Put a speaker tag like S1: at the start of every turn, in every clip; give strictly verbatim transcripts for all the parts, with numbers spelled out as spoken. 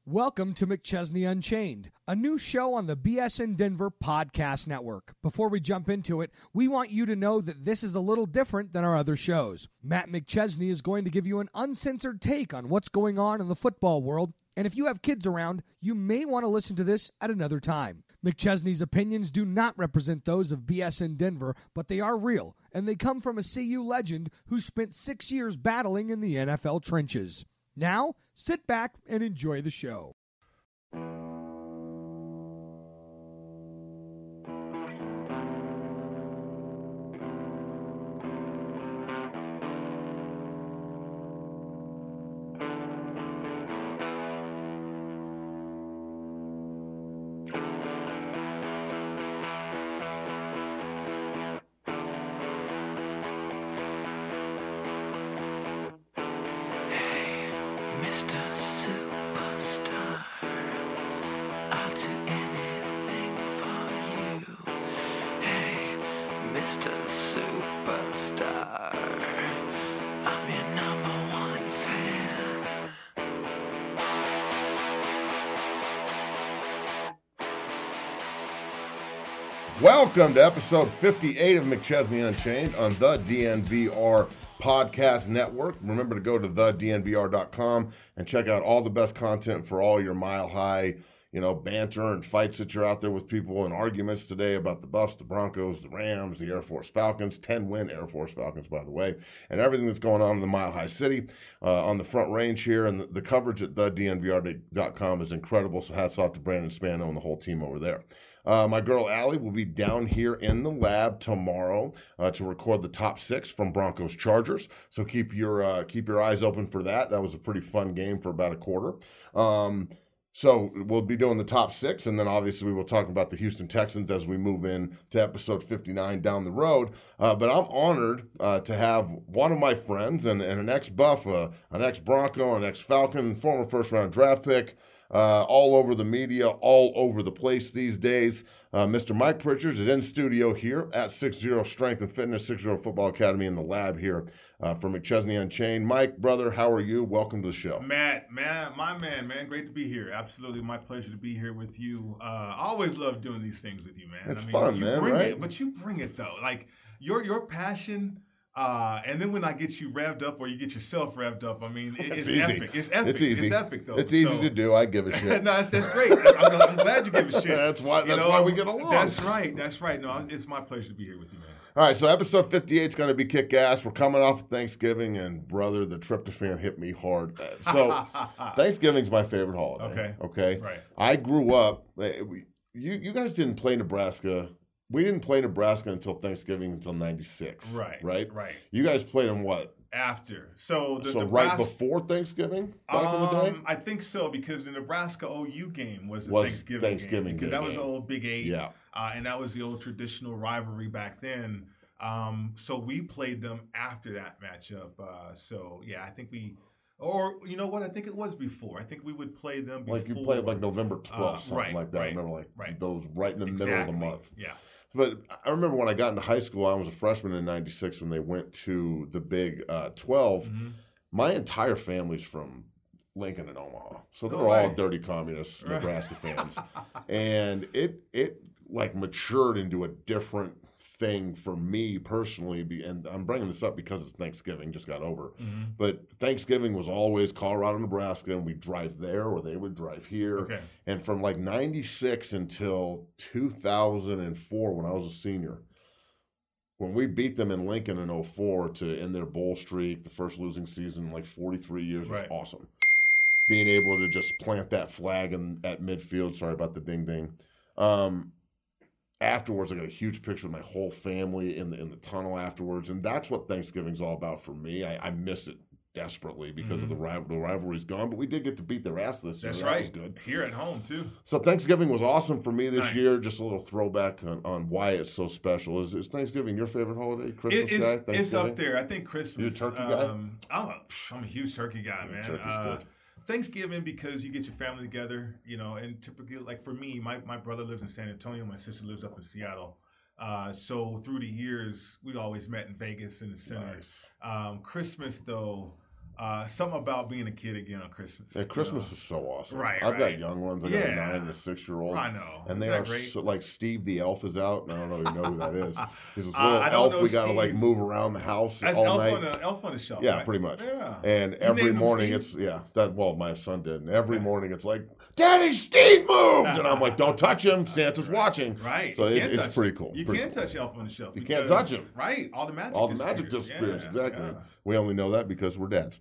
S1: Welcome to McChesney Unchained, a new show on the B S N Denver Podcast Network. Before we jump into it, we want you to know that this is a little different than our other shows. Matt McChesney is going to give you an uncensored take on what's going on in the football world, and if you have kids around, you may want to listen to this at another time. McChesney's opinions do not represent those of B S N Denver, but they are real, and they come from a C U legend who spent six years battling in the N F L trenches. Now, sit back and enjoy the show.
S2: Welcome to episode fifty-eight of McChesney Unchained on the D N V R Podcast Network. Remember to go to the D N V R dot com and check out all the best content for all your mile high, you know, banter and fights that you're out there with people and arguments today about the Buffs, the Broncos, the Rams, the Air Force Falcons, ten-win Air Force Falcons, by the way, and everything that's going on in the Mile High City uh, on the Front Range here. And the, the coverage at the D N V R dot com is incredible, so hats off to Brandon Spano and the whole team over there. Uh, my girl Allie will be down here in the lab tomorrow uh, to record the top six from Broncos Chargers. So keep your uh, keep your eyes open for that. That was a pretty fun game for about a quarter. Um, so we'll be doing the top six, and then obviously we will talk about the Houston Texans as we move in to episode fifty-nine down the road. Uh, but I'm honored uh, to have one of my friends and, and an ex-Buff, uh, an ex-Bronco, an ex-Falcon, former first-round draft pick. Uh, all over the media, all over the place these days. Uh, Mister Mike Pritchard is in studio here at six zero Strength and Fitness, six zero Football Academy in the lab here uh, for McChesney Unchained. Mike, brother, how are you? Welcome to the show.
S3: Matt, man, my man, man, great to be here. Absolutely my pleasure to be here with you. Uh, I always love doing these things with you, man.
S2: It's
S3: I mean,
S2: fun,
S3: you
S2: man,
S3: bring
S2: right?
S3: It, but you bring it, though. Like, your your passion... Uh, and then when I get you revved up or you get yourself revved up, I mean, it, it's,
S2: it's
S3: epic. It's epic.
S2: It's easy.
S3: It's epic, though.
S2: It's easy
S3: so,
S2: to do. I give a shit.
S3: no, that's, that's great. I'm, I'm glad you give a shit.
S2: that's why That's
S3: you know,
S2: why we get along.
S3: That's right. That's right. No, it's my pleasure to be here with you, man.
S2: All right, so episode fifty-eight is going to be kick-ass. We're coming off Thanksgiving, and, brother, the tryptophan hit me hard. So Thanksgiving's my favorite holiday.
S3: Okay.
S2: Okay?
S3: Right.
S2: I grew up eh, – you, you guys didn't play Nebraska – We didn't play Nebraska until Thanksgiving until ninety-six.
S3: Right.
S2: Right?
S3: Right.
S2: You guys played them what?
S3: After. So the
S2: so
S3: Nebraska,
S2: right before Thanksgiving back
S3: um,
S2: in the day?
S3: I think so, because the Nebraska O U game was the
S2: Was
S3: Thanksgiving,
S2: Thanksgiving
S3: game. Because
S2: game,
S3: that was
S2: yeah.
S3: the old Big Eight.
S2: Yeah.
S3: Uh, and that was the old traditional rivalry back then. Um, so we played them after that matchup. Uh, so, yeah, I think we – or, you know what? I think it was before. I think we would play them before.
S2: Like you played like November twelfth,
S3: uh,
S2: something
S3: right,
S2: like that.
S3: Right,
S2: I remember like
S3: right.
S2: those right in the
S3: exactly.
S2: middle of the month.
S3: Yeah.
S2: But I remember when I got into high school, I was a freshman in ninety-six when they went to the Big uh, twelve.
S3: Mm-hmm.
S2: My entire family's from Lincoln and Omaha. So they're
S3: No
S2: all
S3: way.
S2: dirty communist
S3: Right.
S2: Nebraska fans. And it it like matured into a different thing for me personally. Be- And I'm bringing this up because it's Thanksgiving, just got over.
S3: Mm-hmm.
S2: But Thanksgiving was always Colorado, Nebraska, and we'd drive there or they would drive here.
S3: Okay.
S2: And from like ninety-six until two thousand four when I was a senior, when we beat them in Lincoln in oh four to end their bowl streak, the first losing season in like forty-three years was
S3: Right.
S2: awesome. Being able to just plant that flag in, at midfield, sorry about the ding ding. Um, afterwards, I got a huge picture of my whole family in the in the tunnel afterwards, and that's what Thanksgiving's all about for me. I, I miss it desperately because
S3: mm-hmm.
S2: of the rival. The rivalry's gone, but we did get to beat their ass this year.
S3: That's
S2: that
S3: right.
S2: was good.
S3: Here at home, too.
S2: So Thanksgiving was awesome for me this
S3: Nice.
S2: year. Just a little throwback on, on why it's so special. Is, is Thanksgiving your favorite holiday? Christmas
S3: It,
S2: guy?
S3: it's,
S2: Thanksgiving?
S3: it's up there. I think Christmas.
S2: You a turkey guy?
S3: um, I'm, a, I'm a huge turkey guy, man.
S2: Turkey's
S3: Uh,
S2: good.
S3: Thanksgiving, because you get your family together, you know, and typically, like for me, my, my brother lives in San Antonio. My sister lives up in Seattle. Uh, so through the years, we always met in Vegas in the center.
S2: Nice.
S3: Um, Christmas, though, Uh, something about being a kid again on Christmas.
S2: And Christmas
S3: you know?
S2: is so awesome.
S3: Right,
S2: I've
S3: right.
S2: got young ones. I
S3: yeah.
S2: got a nine and a six-year-old.
S3: I know.
S2: And they
S3: Isn't
S2: are
S3: that great?
S2: so, like Steve the Elf is out. And I don't know if you know who that is. He's this
S3: Uh,
S2: little
S3: I don't
S2: elf
S3: know
S2: we got to
S3: Steve.
S2: like move around the house
S3: That's
S2: all
S3: elf
S2: night.
S3: on the elf on the shelf.
S2: Yeah,
S3: right?
S2: pretty much.
S3: Yeah.
S2: And
S3: You
S2: every
S3: named him
S2: morning
S3: Steve?
S2: it's yeah. That well, my son did. And every
S3: Okay.
S2: morning it's like, Daddy, Steve moved, and I'm like, don't touch him. Santa's watching.
S3: Right.
S2: So
S3: You
S2: it,
S3: can't
S2: it's
S3: touch
S2: pretty
S3: him.
S2: cool.
S3: You
S2: Pretty
S3: can't
S2: cool.
S3: touch elf on the shelf.
S2: You can't
S3: because-
S2: touch him.
S3: Right. All the magic.
S2: All the magic
S3: disappears.
S2: disappears.
S3: Yeah,
S2: Exactly.
S3: yeah.
S2: We only know that because we're dads,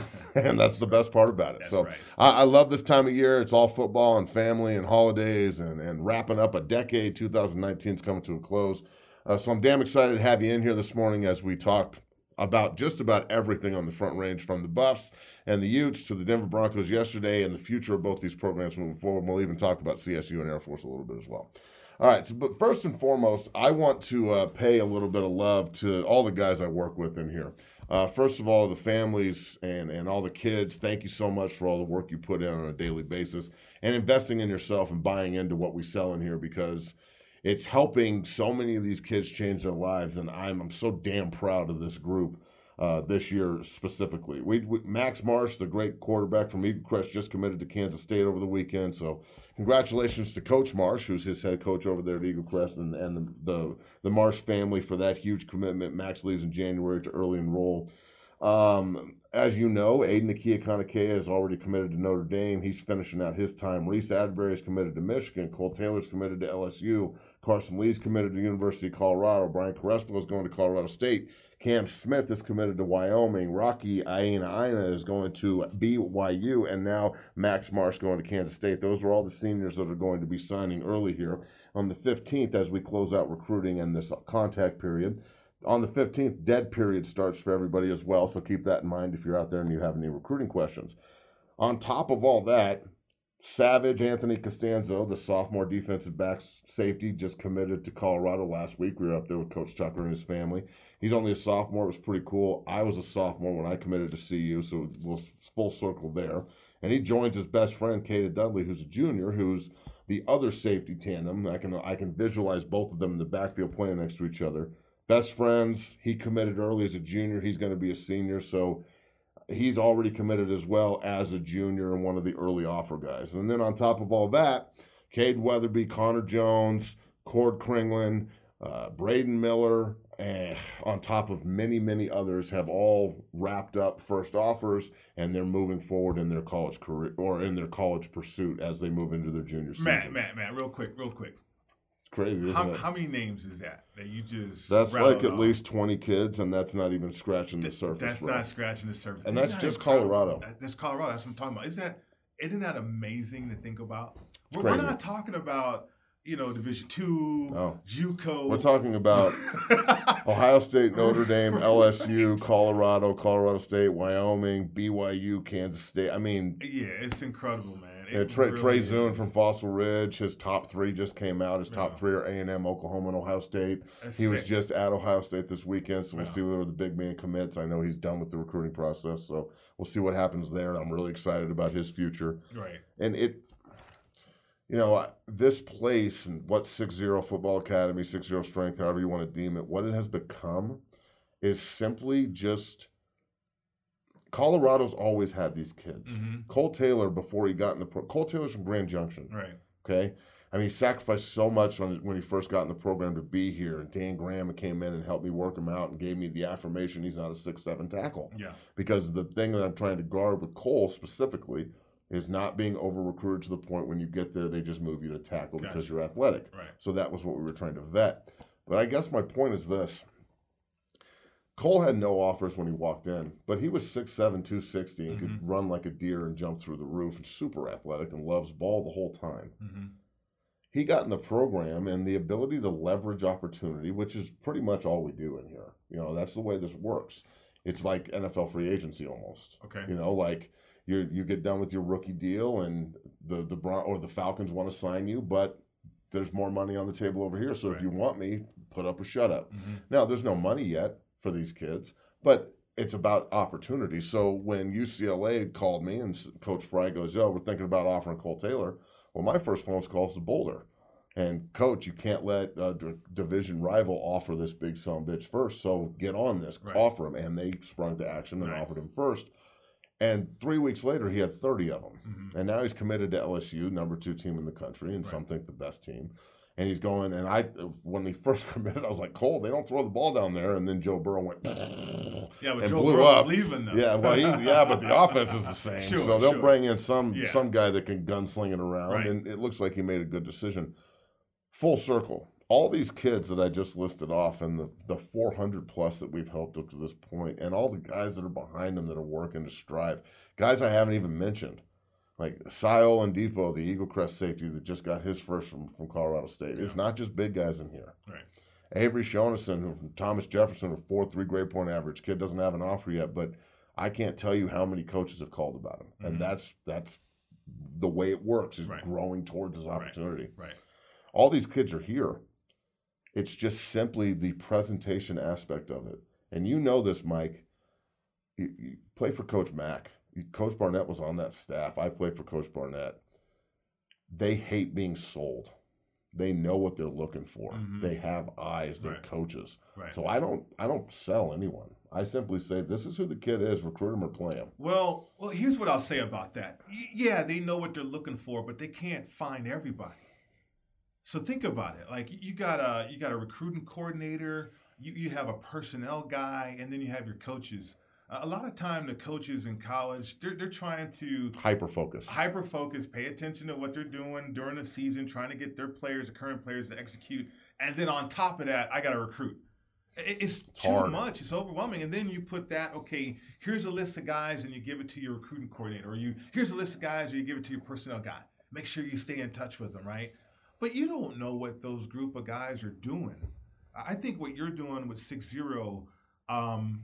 S2: and that's the best part about it.
S3: That's
S2: so
S3: right.
S2: I, I love this time of year. It's all football and family and holidays and, and wrapping up a decade. twenty nineteen is coming to a close. Uh, so I'm damn excited to have you in here this morning as we talk about just about everything on the Front Range, from the Buffs and the Utes to the Denver Broncos yesterday and the future of both these programs moving forward. And we'll even talk about C S U and Air Force a little bit as well. All right, so, but first and foremost, I want to uh, pay a little bit of love to all the guys I work with in here. Uh, first of all, the families and, and all the kids, thank you so much for all the work you put in on a daily basis and investing in yourself and buying into what we sell in here, because it's helping so many of these kids change their lives, and I'm, I'm so damn proud of this group uh, this year specifically. We, we Max Marsh, the great quarterback from Eagle Crest, just committed to Kansas State over the weekend, so congratulations to Coach Marsh, who's his head coach over there at Eagle Crest, and, and the, the, the Marsh family for that huge commitment. Max leaves in January to early enroll. Um, as you know, Aiden Akia Kanakea is already committed to Notre Dame. He's finishing out his time. Reese Adbury is committed to Michigan. Cole Taylor's committed to L S U. Carson Lee's committed to University of Colorado. Brian Carespolo is going to Colorado State. Cam Smith is committed to Wyoming. Rocky Aina Aina is going to B Y U. And now Max Marsh going to Kansas State. Those are all the seniors that are going to be signing early here on the fifteenth as we close out recruiting and this contact period. On the fifteenth, dead period starts for everybody as well, so keep that in mind if you're out there and you have any recruiting questions. On top of all that, Savage Anthony Costanzo, the sophomore defensive back safety, just committed to Colorado last week. We were up there with Coach Tucker and his family. He's only a sophomore. It was pretty cool. I was a sophomore when I committed to C U, so we'll full circle there. And he joins his best friend, Kata Dudley, who's a junior, who's the other safety tandem. I can I can visualize both of them in the backfield playing next to each other. Best friends. He committed early as a junior. He's going to be a senior, so he's already committed as well as a junior and one of the early offer guys. And then on top of all that, Cade Weatherby, Connor Jones, Cord Kringlin, uh, Braden Miller, and on top of many, many others have all wrapped up first offers, and they're moving forward in their college career or in their college pursuit as they move into their junior season.
S3: Matt, Matt, Matt, real quick, real quick.
S2: Crazy, isn't
S3: how,
S2: it?
S3: how many names is that that you just
S2: That's like at
S3: off?
S2: least twenty kids, and that's not even scratching the
S3: Th-
S2: surface.
S3: That's
S2: bro.
S3: not scratching the surface.
S2: And
S3: Isn't
S2: that's
S3: that
S2: just
S3: incredible?
S2: Colorado.
S3: That- That's Colorado. That's what I'm talking about. Isn't that isn't that amazing to think about? We're,
S2: crazy.
S3: we're not talking about you know Division Two,
S2: No.
S3: JUCO.
S2: We're talking about Ohio State, Notre Dame, L S U, Colorado, Colorado State, Wyoming, B Y U, Kansas State. I mean,
S3: Yeah, it's incredible, man. It
S2: yeah, Trey,
S3: really
S2: Trey
S3: is.
S2: Zune from Fossil Ridge, his top three just came out. His top
S3: Yeah.
S2: three are A and M, Oklahoma, and Ohio State.
S3: That's
S2: He was
S3: sick.
S2: just at Ohio State this weekend, so we'll
S3: Yeah.
S2: see where the big man commits. I know he's done with the recruiting process, so we'll see what happens there. I'm really excited about his future.
S3: right.
S2: And it, you know, this place and what six zero Football Academy, six zero Strength, however you want to deem it, what it has become is simply just Colorado's always had these kids.
S3: Mhm.
S2: Cole Taylor, before he got in the pro, Cole Taylor's from Grand Junction.
S3: Right.
S2: Okay. I mean, he sacrificed so much when, when he first got in the program to be here. And Dan Graham came in and helped me work him out and gave me the affirmation he's not a six seven tackle.
S3: Yeah.
S2: Because the thing that I'm trying to guard with Cole specifically is not being over-recruited to the point when you get there, they just move you to tackle
S3: Gotcha.
S2: because you're athletic.
S3: Right.
S2: So that was what we were trying to vet. But I guess my point is this. Cole had no offers when he walked in, but he was six seven, two sixty, and
S3: Mhm.
S2: could run like a deer and jump through the roof, and super athletic and loves ball the whole time.
S3: Mm-hmm.
S2: He got in the program and the ability to leverage opportunity, which is pretty much all we do in here. You know, that's the way this works. It's like N F L free agency almost.
S3: Okay.
S2: You know, like you you get done with your rookie deal and the the Bron- or the Falcons want to sign you, but there's more money on the table over here. So
S3: Right.
S2: if you want me, put up or shut up.
S3: Mm-hmm.
S2: Now, there's no money yet for these kids, but it's about opportunity. So when U C L A called me and Coach Fry goes, yo, we're thinking about offering Cole Taylor. Well, my first phone call is to Boulder. And, Coach, you can't let a d- division rival offer this big son of a bitch first, so get on this,
S3: Right.
S2: offer him. And they sprung to action and
S3: Nice.
S2: offered him first. And three weeks later, he had thirty of them.
S3: Mm-hmm.
S2: And now he's committed to L S U, number two team in the country, and
S3: Right.
S2: some think the best team. And he's going, and I, when he first committed, I was like, Cole, they don't throw the ball down there. And then Joe Burrow went,
S3: yeah, but
S2: and
S3: Joe
S2: blew
S3: Burrow
S2: up.
S3: was leaving them.
S2: Yeah, well, he, yeah, but the offense is the same.
S3: Sure,
S2: so they'll
S3: sure.
S2: bring in some
S3: Yeah.
S2: some guy that can gunsling it around,
S3: Right.
S2: and it looks like he made a good decision. Full circle. All these kids that I just listed off, and the, the four hundred plus that we've helped up to this point, and all the guys that are behind them that are working to strive, guys I haven't even mentioned, like Sayo and Depot, the Eagle Crest safety that just got his first from, from Colorado State.
S3: Yeah.
S2: It's not just big guys in here.
S3: Right.
S2: Avery Shonison, who from Thomas Jefferson, a four three grade point average. Kid doesn't have an offer yet, but I can't tell you how many coaches have called about him. And
S3: Mhm.
S2: that's that's the way it works, is
S3: Right.
S2: growing towards his opportunity.
S3: Right.
S2: All these kids are here. It's just simply the presentation aspect of it. And you know this, Mike. You, you play for Coach Mack. Coach Barnett was on that staff. I played for Coach Barnett. They hate being sold. They know what they're looking for.
S3: Mhm.
S2: They have eyes. They're
S3: Right.
S2: coaches.
S3: Right.
S2: So I don't I don't sell anyone. I simply say, this is who the kid is. Recruit him or play him.
S3: Well, well, here's what I'll say about that. Y- Yeah, they know what they're looking for, but they can't find everybody. So think about it. Like you got a you got a recruiting coordinator, you, you have a personnel guy, and then you have your coaches. Uh, a lot of time, the coaches in college, they're they're trying to
S2: Hyper focus.
S3: hyper focus, pay attention to what they're doing during the season, trying to get their players, the current players, to execute. And then on top of that, I got to recruit. It- It's,
S2: It's
S3: too
S2: hard.
S3: much. It's overwhelming. And then you put that, okay, here's a list of guys, and you give it to your recruiting coordinator, or you here's a list of guys, or you give it to your personnel guy. Make sure you stay in touch with them, right? But you don't know what those group of guys are doing. I think what you're doing with six zero, um,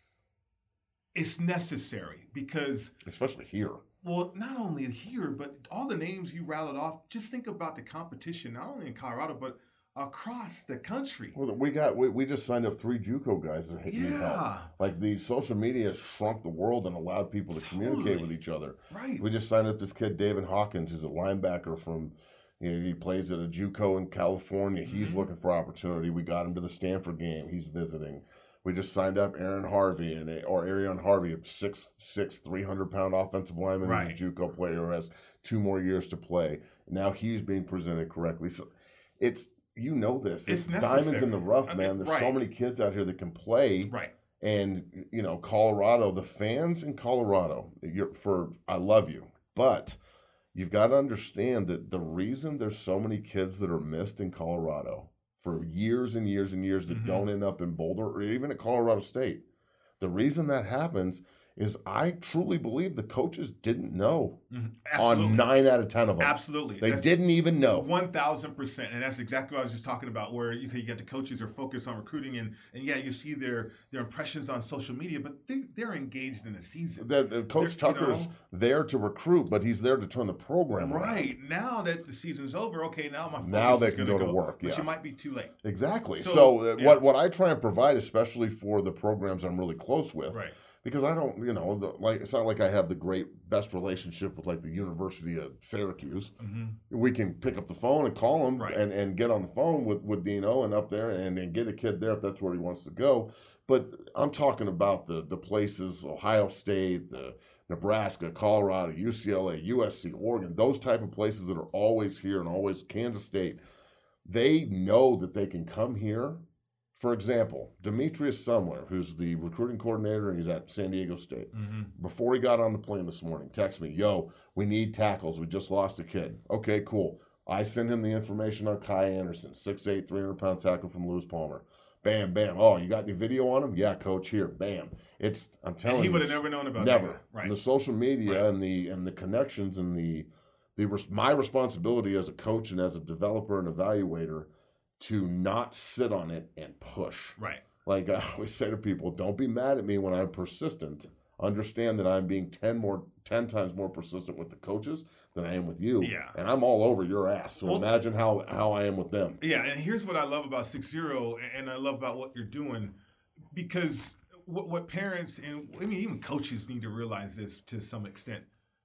S3: it's necessary because
S2: Especially here.
S3: well, not only here, but all the names you rattled off, just think about the competition, not only in Colorado, but across the country.
S2: Well, we got we, we just signed up three JUCO guys that need help.
S3: Yeah,
S2: Like the social media has shrunk the world and allowed people to communicate
S3: Totally.
S2: with each other.
S3: right.
S2: We just signed up this kid, David Hawkins, who's a linebacker from, you know, he plays at a JUCO in California. He's
S3: Mhm.
S2: looking for opportunity. We got him to the Stanford game. He's visiting. We just signed up Aaron Harvey and a, or Arion Harvey, a six six, three hundred pound offensive lineman.
S3: Right.
S2: He's a JUCO player who has two more years to play. Now he's being presented correctly. So it's, you know this.
S3: It's
S2: It's, diamonds
S3: necessary.
S2: in the rough,
S3: I mean,
S2: man. There's
S3: right.
S2: so many kids out here that can play.
S3: Right.
S2: And, you know, Colorado, the fans in Colorado, you're, for I love you, but you've got to understand that the reason there's so many kids that are missed in Colorado for years and years and years that
S3: Mhm.
S2: don't end up in Boulder or even at Colorado State, the reason that happens is I truly believe the coaches didn't know
S3: Mhm. Absolutely.
S2: on nine out of ten of them.
S3: Absolutely.
S2: They
S3: That's
S2: didn't even know.
S3: one thousand percent. And that's exactly what I was just talking about, where you, you get the coaches are focused on recruiting, and, and yeah, you see their, their impressions on social media, but they, they're engaged in the season.
S2: That uh, Coach
S3: They're- you
S2: Tucker's
S3: know-
S2: there to recruit, but he's there to turn the program around.
S3: Right. Now that the season's over, okay, now my focus
S2: Now they
S3: is
S2: can
S3: gonna
S2: go to work,
S3: But
S2: yeah.
S3: you might be too late.
S2: Exactly.
S3: So,
S2: So, uh,
S3: yeah.
S2: what what I try and provide, especially for the programs I'm really close with,
S3: Right.
S2: because I don't, you know, the, like it's not like I have the great best relationship with like the University of Syracuse.
S3: Mm-hmm.
S2: We can pick up the phone and call them
S3: Right.
S2: and, and get on the phone with, with Dino and up there and, and get a kid there if that's where he wants to go. But I'm talking about the the places, Ohio State, the Nebraska, Colorado, U C L A, U S C, Oregon, those type of places that are always here and always Kansas State. They know that they can come here. For example, Demetrius Sumler, who's the recruiting coordinator, and he's at San Diego State.
S3: Mm-hmm.
S2: Before he got on the plane this morning, text me, yo, we need tackles. We just lost a kid. Okay, cool. I send him the information on Kai Anderson, six eight, three hundred pound tackle from Lewis Palmer. Bam, bam. Oh, you got any video on him? Yeah, coach, here. Bam. It's, I'm telling
S3: And he
S2: you.
S3: would have
S2: it's-
S3: never known about
S2: Never.
S3: that. Right.
S2: And the social media
S3: Right.
S2: and the and the connections and the the res- my responsibility as a coach and as a developer and evaluator to not sit on it and push.
S3: Right.
S2: Like I always say to people, don't be mad at me when I'm persistent. Understand that I'm being ten more ten times more persistent with the coaches than I am with you.
S3: Yeah.
S2: And I'm all over your ass. So
S3: Well-
S2: imagine how how I am with them.
S3: Yeah, and here's what I love about six zero, and I love about what you're doing, because what, what parents and I mean even coaches need to realize this to some extent.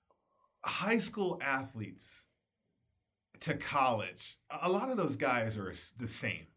S3: High school athletes to college, a lot of those guys are the same.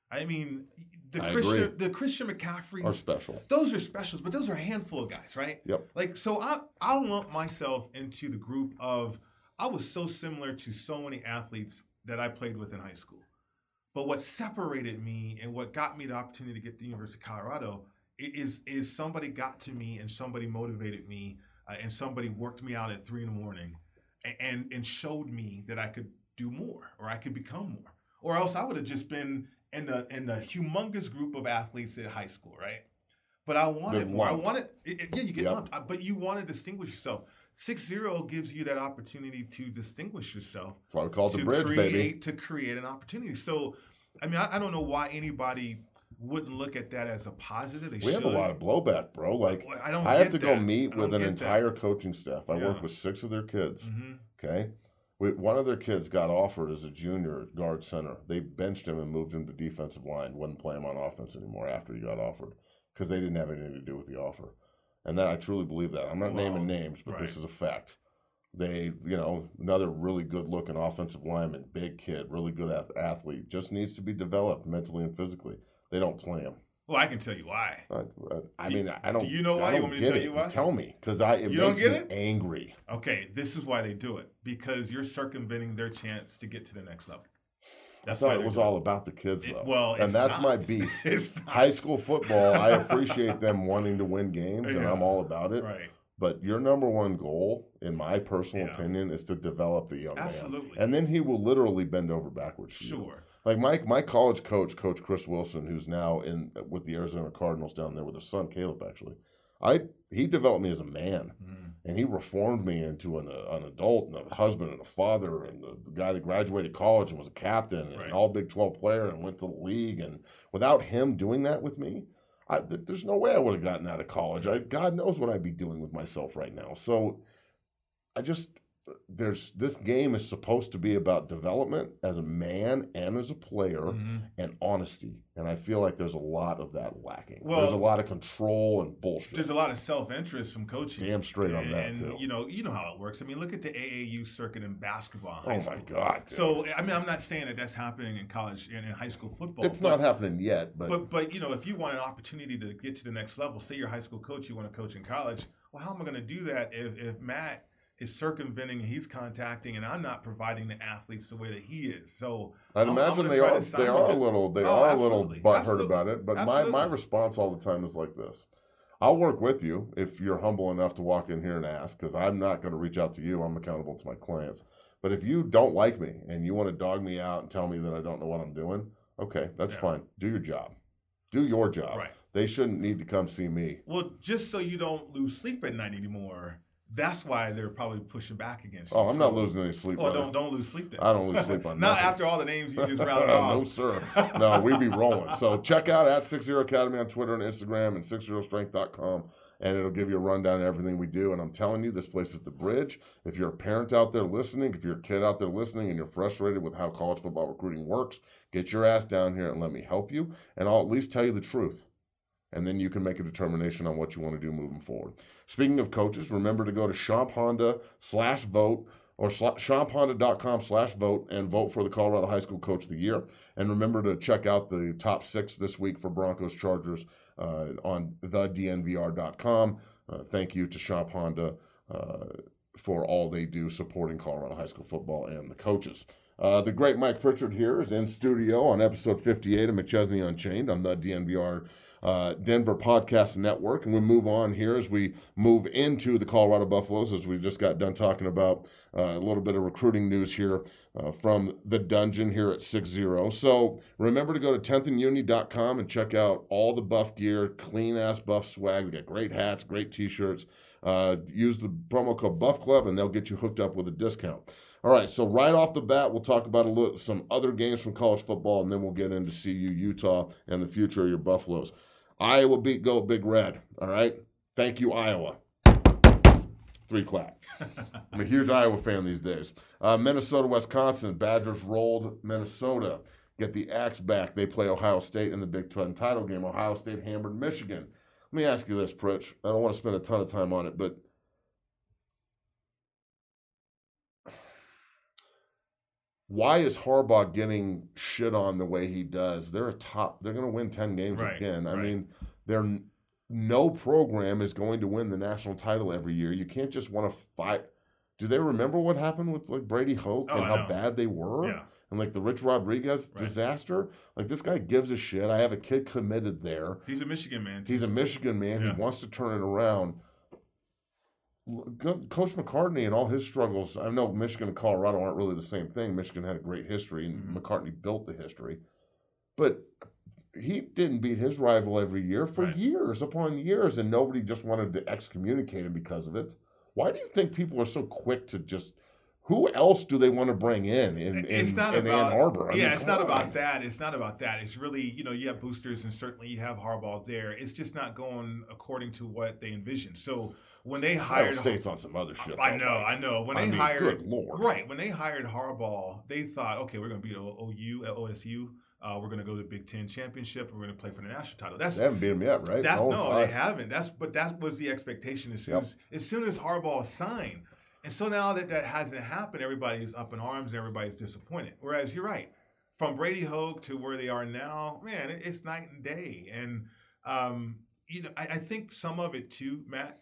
S3: I mean, the
S2: I
S3: Christian
S2: agree.
S3: the Christian McCaffreys
S2: Are special.
S3: Those are specials, but those are a handful of guys, right?
S2: Yep.
S3: Like, so I I lump myself into the group of I was so similar to so many athletes that I played with in high school. But what separated me and what got me the opportunity to get to the University of Colorado is is somebody got to me and somebody motivated me uh, and somebody worked me out at three in the morning and, and and showed me that I could do more or I could become more, or else I would have just been in the in the humongous group of athletes at high school, right? But I wanted
S2: They're
S3: more. I
S2: lumped.
S3: wanted it, it- yeah, you get
S2: Yep.
S3: lumped, uh, but you want to distinguish yourself. Six zero gives you that opportunity to distinguish yourself.
S2: That's why we call it
S3: to
S2: the bridge,
S3: create,
S2: baby.
S3: To create an opportunity. So, I mean, I, I don't know why anybody wouldn't look at that as a positive. They
S2: We
S3: should.
S2: have a lot of blowback, bro. Like,
S3: Well, I don't.
S2: I have
S3: get
S2: to go
S3: that.
S2: meet
S3: I don't
S2: with an
S3: get
S2: entire coaching staff. I
S3: Yeah.
S2: work with six of their kids.
S3: That. Mhm.
S2: Okay. We, one of their kids got offered as a junior at guard center. They benched him and moved him to defensive line. Wouldn't play him on offense anymore after he got offered because they didn't have anything to do with the offer. And that I truly believe that. I'm not
S3: Well,
S2: naming names, but
S3: right.
S2: this is a fact. They, you know, another really good looking offensive lineman, big kid, really good ath- athlete, just needs to be developed mentally and physically. They don't play him.
S3: Well, I can tell you why.
S2: I, I
S3: Do-
S2: mean, I don't.
S3: do you know why?
S2: I
S3: You
S2: don't
S3: want me to
S2: get
S3: tell
S2: it.
S3: you why?
S2: Tell me, because I it
S3: You don't
S2: makes
S3: get
S2: me
S3: it?
S2: angry.
S3: Okay, this is why they do it because you're circumventing their chance to get to the next level.
S2: I
S3: That's why
S2: thought it
S3: they're
S2: was
S3: doing
S2: all about the kids,
S3: It-
S2: though.
S3: well, it's
S2: and that's
S3: not.
S2: my beef.
S3: It's not.
S2: High school football, I appreciate them wanting to win games, and
S3: Yeah.
S2: I'm all about it.
S3: Right.
S2: But your number one goal, in my personal
S3: Yeah.
S2: opinion, is to develop the young man.
S3: Absolutely.
S2: And then he will literally bend over backwards for you.
S3: Sure.
S2: Like my my college coach, Coach Chris Wilson, who's now in with the Arizona Cardinals down there with his son Caleb. Actually, I he developed me as a man,
S3: Mm.
S2: and he reformed me into an, uh, an adult and a husband and a father, and the, the guy that graduated college and was a captain and
S3: Right.
S2: an All Big twelve player and went to the league. And without him doing that with me, I, th- there's no way I would have gotten out of college. I, God knows what I'd be doing with myself right now. So I just. There's this game is supposed to be about development as a man and as a player
S3: Mhm.
S2: and honesty, and I feel like there's a lot of that lacking.
S3: Well,
S2: there's a lot of control and bullshit.
S3: There's a lot of self-interest from coaching.
S2: Damn straight on that
S3: and,
S2: too.
S3: You know, you know how it works. I mean, look at the A A U circuit in basketball.
S2: Oh
S3: high
S2: my
S3: school.
S2: God! Dude.
S3: So I mean, I'm not saying that that's happening in college and in high school football.
S2: it's
S3: but,
S2: not happening yet, but,
S3: But but you know, if you want an opportunity to get to the next level, say you're a high school coach, you want to coach in college. Well, how am I going to do that if if Matt is circumventing and he's contacting and I'm not providing the athletes the way that he is? So
S2: I'd
S3: I'm- I'm
S2: imagine
S3: gonna
S2: they
S3: try
S2: are
S3: to
S2: they
S3: sign
S2: are a
S3: with it.
S2: little they
S3: Oh,
S2: are a little
S3: absolutely.
S2: butthurt
S3: Absolutely.
S2: about it. But my my
S3: Absolutely.
S2: response all the time is like this: I'll work with you if you're humble enough to walk in here and ask, because I'm not going to reach out to you. I'm accountable to my clients. But if you don't like me and you want to dog me out and tell me that I don't know what I'm doing, okay, that's
S3: Yeah.
S2: fine. Do your job. Do your job.
S3: Right.
S2: They shouldn't need to come see me.
S3: Well, just so you don't lose sleep at night anymore, that's why they're probably pushing back against you.
S2: Oh, I'm not
S3: So-
S2: losing any sleep.
S3: Well,
S2: brother.
S3: don't don't lose sleep then.
S2: I don't lose sleep on
S3: Not
S2: nothing.
S3: after all the names you just routed
S2: no,
S3: off.
S2: sir. No, we be rolling. So check out at six zero Academy on Twitter and Instagram and six zero strength dot com, and it'll give you a rundown of everything we do. And I'm telling you, this place is the bridge. If you're a parent out there listening, if you're a kid out there listening and you're frustrated with how college football recruiting works, get your ass down here and let me help you, and I'll at least tell you the truth. And then you can make a determination on what you want to do moving forward. Speaking of coaches, remember to go to Champ Honda slash vote or champ honda dot com slash vote and vote for the Colorado High School Coach of the Year. And remember to check out the top six this week for Broncos Chargers uh, on the d n v r dot com. Uh, thank you to Champ Honda uh, for all they do supporting Colorado High School football and the coaches. Uh, the great Mike Pritchard here is in studio on episode fifty-eight of McChesney Unchained on the D N V R uh, Denver Podcast Network. And we move on here as we move into the Colorado Buffaloes, as we just got done talking about uh, a little bit of recruiting news here uh, from the dungeon here at six zero. So remember to go to tenth and uni dot com and check out all the Buff gear, clean-ass Buff swag. We got great hats, great T-shirts. Uh, use the promo code Buff Club, and they'll get you hooked up with a discount. All right, so right off the bat, we'll talk about a little, some other games from college football, and then we'll get into C U, Utah, and the future of your Buffaloes. Iowa beat Go Big Red, all right? Thank you, Iowa. Three clap. I'm a huge Iowa fan these days. Uh, Minnesota, Wisconsin, Badgers rolled Minnesota. Get the Axe back. They play Ohio State in the Big Ten title game. Ohio State hammered Michigan. Let me ask you this, Pritch. I don't want to spend a ton of time on it, but why is Harbaugh getting shit on the way he does? They're a top. They're going to win ten games
S3: Right,
S2: again. I
S3: right.
S2: mean, they're no program is going to win the national title every year. You can't just want to fight. Do they remember what happened with like Brady Hoke
S3: Oh,
S2: and
S3: I
S2: how
S3: know.
S2: bad they were?
S3: Yeah.
S2: And like the Rich Rodriguez
S3: Right.
S2: disaster? Like this guy gives a shit. I have a kid committed there.
S3: He's a Michigan man. Too.
S2: He's a Michigan man.
S3: Yeah.
S2: He wants to turn it around. L- Coach McCartney and all his struggles, I know Michigan and Colorado aren't really the same thing. Michigan had a great history, and
S3: Mhm.
S2: McCartney built the history. But he didn't beat his rival every year for
S3: Right.
S2: years upon years, and nobody just wanted to excommunicate him because of it. Why do you think people are so quick to just... Who else do they want to bring in in, in,
S3: it's not
S2: in
S3: about,
S2: Ann Arbor? I
S3: yeah,
S2: mean,
S3: it's
S2: come
S3: not
S2: on.
S3: about that. It's not about that. It's really, you know, you have boosters and certainly you have Harbaugh there. It's just not going according to what they envisioned. So when they
S2: Ohio
S3: hired,
S2: State's on some other shit.
S3: I
S2: though,
S3: know,
S2: Mike.
S3: I know. When
S2: I
S3: they
S2: mean,
S3: hired,
S2: good Lord.
S3: right? When they hired Harbaugh, they thought, okay, we're going to beat O U, O S U. Uh, we're going to go to the Big Ten championship. We're going to play for the national title. That's
S2: They haven't beat him yet, right?
S3: That's
S2: oh
S3: no,
S2: five.
S3: they haven't. That's but that was the expectation as soon
S2: Yep.
S3: as as soon as Harbaugh signed. And so now that that hasn't happened, everybody's up in arms and everybody's disappointed. Whereas you're right, from Brady Hoke to where they are now, man, it, it's night and day. And um, you know, I, I think some of it too, Matt,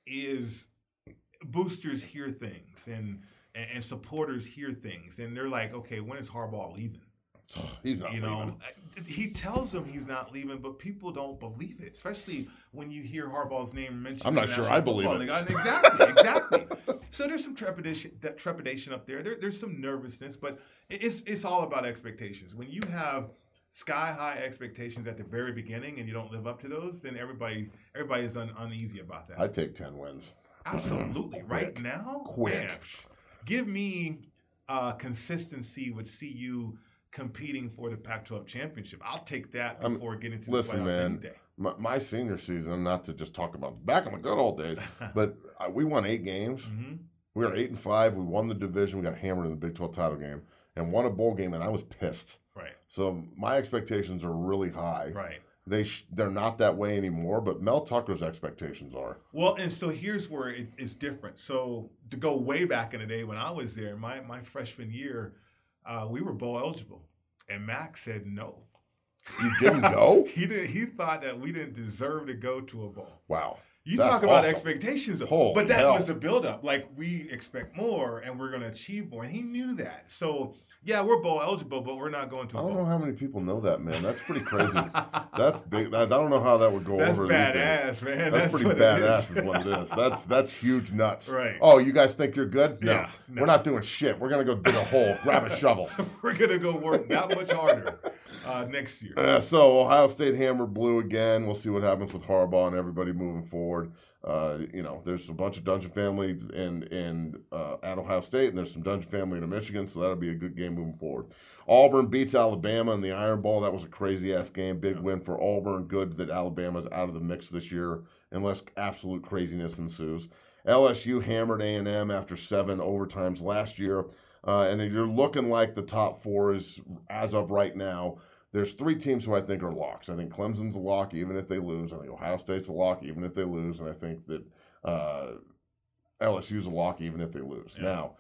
S3: is boosters hear things and, and and supporters hear things, and they're like, okay, when is Harbaugh leaving?
S2: He's not
S3: You
S2: leaving.
S3: know, he tells them he's not leaving, but people don't believe it, especially when you hear Harbaugh's name mentioned.
S2: I'm not
S3: in the
S2: sure
S3: National
S2: I believe
S3: Football
S2: it.
S3: League. Exactly, exactly. So there's some trepidation, that trepidation up there. there. There's some nervousness, but it's it's all about expectations. When you have sky high expectations at the very beginning and you don't live up to those, then everybody everybody is un, uneasy about that.
S2: I'd take ten wins.
S3: Absolutely, right
S2: Quick.
S3: now,
S2: Quick.
S3: man, give me uh, consistency with C U competing for the Pac twelve championship. I'll take that
S2: Um,
S3: before getting to
S2: listen,
S3: the playoffs any
S2: man,
S3: day.
S2: My, my senior season, not to just talk about back in the good old days, but uh, we won eight games.
S3: Mhm.
S2: We were eight and five. We won the division. We got hammered in the Big twelve title game and won a bowl game, and I was pissed.
S3: Right,
S2: So my expectations are really high.
S3: right.
S2: They sh- they're not that way anymore, but Mel Tucker's expectations are.
S3: Well, and so here's where it, it's different. So to go way back in the day when I was there, my my freshman year, uh, we were bowl eligible, and Mac said no.
S2: You didn't go?
S3: He did. He thought that we didn't deserve to go to a bowl.
S2: Wow.
S3: You
S2: That's
S3: talk about
S2: awesome.
S3: expectations,
S2: Holy
S3: but that
S2: hell.
S3: was the buildup. Like, we expect more, and we're going to achieve more, and he knew that. So, yeah, we're bowl eligible, but we're not going to
S2: I
S3: a
S2: don't know
S3: bowl.
S2: how many people know that, man. That's pretty crazy. That's big. I don't know how that would go
S3: That's
S2: over these days.
S3: badass, man.
S2: That's, pretty
S3: what it
S2: badass, is.
S3: is.
S2: what it is. That's that's huge nuts.
S3: Right.
S2: Oh, you guys think you're good? No,
S3: Yeah, no.
S2: we're not doing shit. We're gonna go dig a hole, grab a shovel.
S3: We're going to go work that much harder uh, next year.
S2: Uh, so Ohio State hammered blue again. We'll see what happens with Harbaugh and everybody moving forward. Uh, you know, there's a bunch of Dungeon family in in uh, at Ohio State, and there's some Dungeon family in Michigan, so that'll be a good game moving forward. Auburn beats Alabama in the Iron Bowl. That was a crazy ass game. Big win for Auburn. Good that Alabama's out of the mix this year, unless absolute craziness ensues. L S U hammered A and M after seven overtimes last year, uh, and you're looking like the top four is as of right now. There's three teams who I think are locks. I think Clemson's a lock, even if they lose. I think Ohio State's a lock, even if they lose. And I think that uh, L S U's a lock, even if they lose.
S3: Yeah.
S2: Now,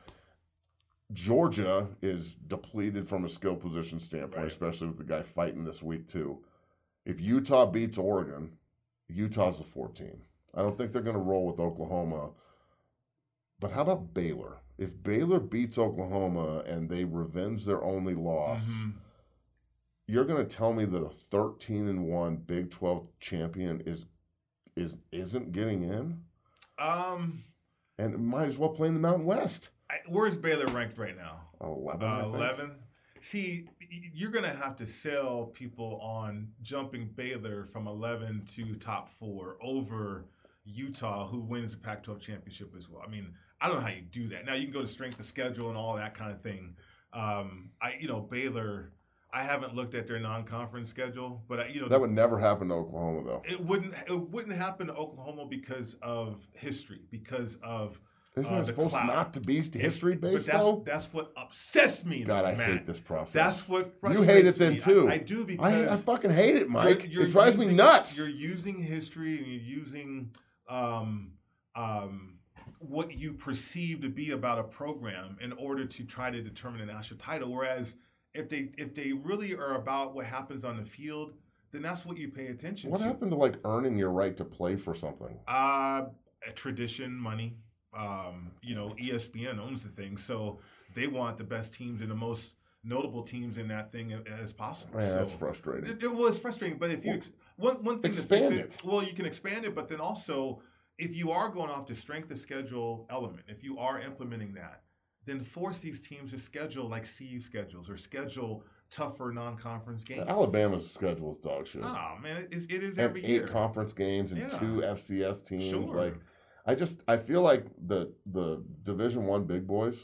S2: Georgia is depleted from a skill position standpoint,
S3: Right.
S2: especially with the guy fighting this week, too. If Utah beats Oregon, Utah's the fourth team. I don't think they're going to roll with Oklahoma. But how about Baylor? If Baylor beats Oklahoma and they revenge their only loss,
S3: Mhm.
S2: you're going to tell me that a thirteen and one Big twelve champion is is isn't getting in,
S3: Um,
S2: and might as well play in the Mountain West.
S3: I, where's Baylor ranked right now?
S2: Eleven, I
S3: Uh,
S2: think.
S3: eleven. See, y- you're going to have to sell people on jumping Baylor from eleven to top four over Utah, who wins the Pac twelve championship as well. I mean, I don't know how you do that. Now, you can go to strength of schedule and all that kind of thing. Um, I, you know, Baylor, I haven't looked at their non-conference schedule, but I, you know,
S2: That would never happen to Oklahoma, though.
S3: it wouldn't it wouldn't happen to Oklahoma because of history, because of
S2: Isn't
S3: uh,
S2: it
S3: the
S2: supposed
S3: clout.
S2: not to be history based,
S3: But that's,
S2: though?
S3: that's what obsessed me.
S2: God, I
S3: Matt.
S2: hate this process.
S3: That's what
S2: You
S3: frustrates
S2: hate it then,
S3: me.
S2: too.
S3: I, I do because
S2: I, I fucking hate it, Mike.
S3: you're- you're
S2: it drives
S3: using-
S2: me nuts.
S3: You're using history and you're using um, um, what you perceive to be about a program in order to try to determine a national title. Whereas if they if they really are about what happens on the field, then that's what you pay attention
S2: What
S3: to.
S2: happened to like earning your right to play for something?
S3: Uh, tradition, money. Um, you know, E S P N owns the thing, so they want the best teams and the most notable teams in that thing as possible.
S2: Man,
S3: so
S2: that's frustrating.
S3: It, it was frustrating, but if you
S2: Well,
S3: ex- one one thing to
S2: expand
S3: fix it,
S2: it.
S3: well, you can expand it, but then also if you are going off the strength of schedule element, if you are implementing that, then force these teams to schedule like C U schedules or schedule tougher non-conference games.
S2: Alabama's schedule is dog shit.
S3: Oh man, it is, it is
S2: And
S3: every
S2: eight
S3: year.
S2: conference games and
S3: Yeah.
S2: two F C S teams.
S3: Sure.
S2: Like, I just I feel like the the Division One big boys,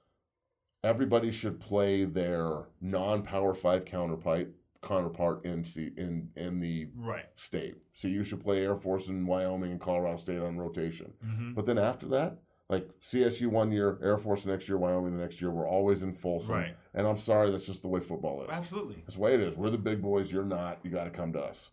S2: everybody should play their non-Power Five counterpart counterpart in C, in in the
S3: Right.
S2: state. So you should play Air Force in Wyoming and Colorado State on rotation.
S3: Mm-hmm.
S2: But then after that, like C S U one year, Air Force next year, Wyoming the next year, we're always in Folsom.
S3: Right.
S2: And I'm sorry, that's just the way football is.
S3: Absolutely.
S2: That's the way it is. We're the big boys. You're not. You got to come to us.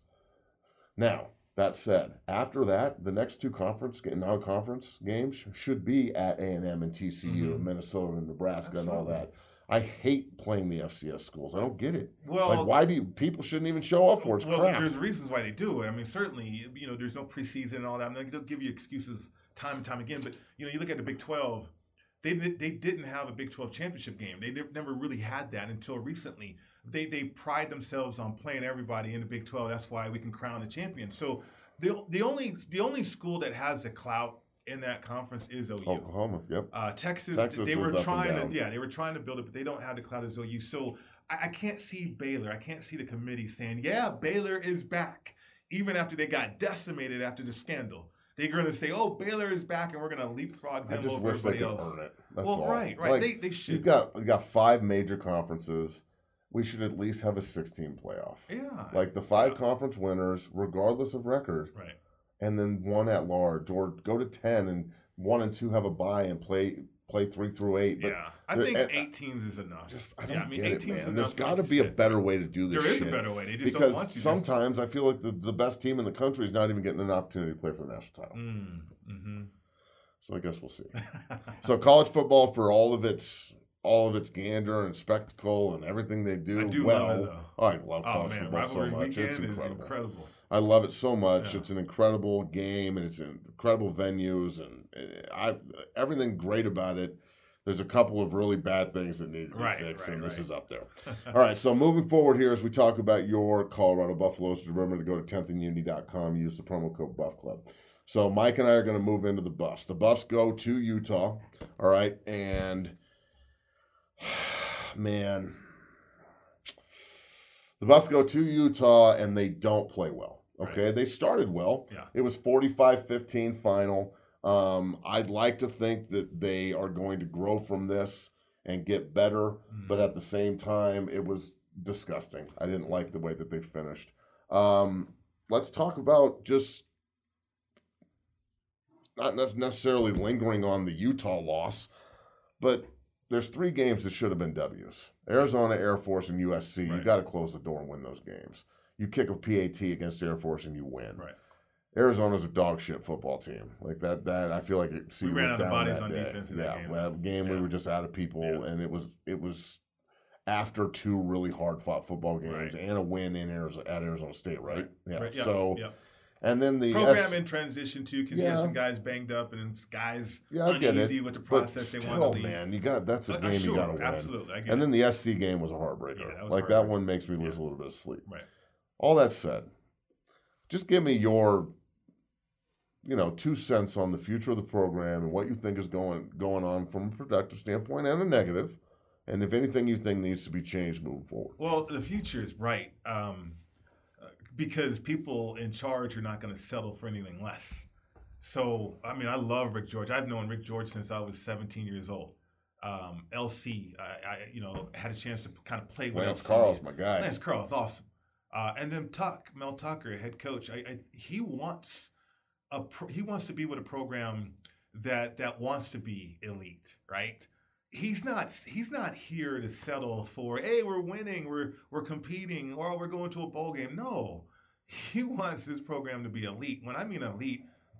S2: Now, that said, after that, the next two conference non-conference games sh- should be at A and M and T C U
S3: Mhm.
S2: and Minnesota and Nebraska and all
S3: Absolutely.
S2: that. I hate playing the F C S schools. I don't get it.
S3: Well,
S2: Like, why do you, people shouldn't even show up for it? It's
S3: well,
S2: crap.
S3: there's reasons why they do it. I mean, certainly, you know, there's no preseason and all that. I mean, they'll give you excuses time and time again. But you know, you look at the Big twelve. They they didn't have a Big twelve championship game. They never really had that until recently. They they pride themselves on playing everybody in the Big twelve. That's why we can crown a champion. So the the only the only school that has the clout in that conference is O U.
S2: Oklahoma, yep.
S3: Uh, Texas,
S2: Texas
S3: they
S2: is
S3: were
S2: up and
S3: trying
S2: down.
S3: to, yeah, they were trying to build it, but they don't have the clout as O U. So I, I can't see Baylor. I can't see the committee saying, "Yeah, Baylor is back," even after they got decimated after the scandal. They're going to say, "Oh, Baylor is back, and we're going to leapfrog
S2: I
S3: them
S2: just
S3: over
S2: wish they
S3: everybody
S2: could
S3: else."
S2: earn it. That's
S3: well,
S2: all.
S3: right, right.
S2: Like,
S3: they they should.
S2: You've got you got five major conferences. We should at least have a sixteen playoff.
S3: yeah,
S2: Like the five
S3: Yeah.
S2: conference winners, regardless of record,
S3: right.
S2: and then one at large, or go to ten and one and two have a bye and play play three through eight. But
S3: Yeah, I
S2: there-
S3: think
S2: and-
S3: eight teams is enough.
S2: just I don't
S3: yeah, I mean,
S2: get
S3: eight
S2: it,
S3: teams is
S2: man.
S3: enough
S2: There's
S3: to
S2: got to
S3: make
S2: be a
S3: sense.
S2: better way to do this
S3: There is
S2: shit.
S3: a better way. They just
S2: because
S3: don't want to.
S2: sometimes I feel like the, the best team in the country is not even getting an opportunity to play for the national title.
S3: Mm, mm-hmm.
S2: So I guess we'll see. So college football, for all of its all of its gander and spectacle and everything they do,
S3: I do
S2: well,
S3: love it, though.
S2: oh, I love
S3: Oh
S2: college
S3: man,
S2: football so
S3: rivalry
S2: much.
S3: weekend
S2: It's
S3: is
S2: incredible.
S3: incredible.
S2: I love it so much.
S3: Yeah.
S2: It's an incredible game, and it's an incredible venues, and uh, I everything great about it. There's a couple of really bad things that need to be
S3: Right,
S2: fixed,
S3: right,
S2: and this
S3: right.
S2: is up there. All right, so moving forward here as we talk about your Colorado Buffaloes, remember to go to tenth and unity dot com, use the promo code Buff Club. So Mike and I are going to move into the Buffs. The Buffs go to Utah, all right, and man, the Buffs go to Utah and they don't play well. Okay,
S3: Right.
S2: they started well.
S3: Yeah.
S2: It was forty-five fifteen final. Um, I'd like to think that they are going to grow from this and get better,
S3: Mm.
S2: but at the same time, it was disgusting. I didn't like the way that they finished. Um, let's talk about just not nec- necessarily lingering on the Utah loss, but there's three games that should have been W's. Arizona, Air Force, and U S C. You
S3: Right.
S2: got to close the door and win those games. You kick a P A T against Air Force and you win.
S3: Right.
S2: Arizona's a dog shit football team. Like that, that I feel like it, see,
S3: We
S2: was
S3: ran out of
S2: down
S3: bodies
S2: that
S3: on
S2: day.
S3: defense in
S2: yeah,
S3: that game.
S2: well, game we
S3: Yeah.
S2: were just out of people,
S3: Yeah.
S2: and it was it was after two really hard fought football games
S3: Right.
S2: and a win in Arizona at Arizona State, right? Yeah.
S3: Right, yeah,
S2: So
S3: yeah.
S2: and then the
S3: program
S2: S-
S3: in transition too, because you
S2: Yeah.
S3: have some guys banged up and it's guys
S2: yeah, I get
S3: uneasy
S2: it.
S3: with the
S2: But
S3: process they
S2: still,
S3: want to lead.
S2: man, you got that's a
S3: Uh,
S2: game
S3: sure,
S2: you got to win.
S3: absolutely. I get
S2: And
S3: it.
S2: then the S C game was a heartbreaker.
S3: Yeah, that was
S2: like that
S3: heartbreaker.
S2: one makes me lose
S3: Yeah.
S2: a little bit of sleep.
S3: Right.
S2: All that said, just give me your, you know, two cents on the future of the program and what you think is going going on from a productive standpoint and a negative, and if anything you think needs to be changed moving forward.
S3: Well, the future is bright um, uh, because people in charge are not going to settle for anything less. So, I mean, I love Rick George. I've known Rick George since I was seventeen years old. Um, L C, I, I, you know, had a chance to kind of play with
S2: Lance
S3: L C.
S2: Carl's my guy.
S3: Lance Carl's awesome. Uh, and then Tuck, Mel Tucker, head coach. I, I, he wants a pro, he wants to be with a program that that wants to be elite, right? He's not he's not here to settle for, hey, we're winning, we're we're competing, or we're going to a bowl game. No, he wants this program to be elite. When I mean elite,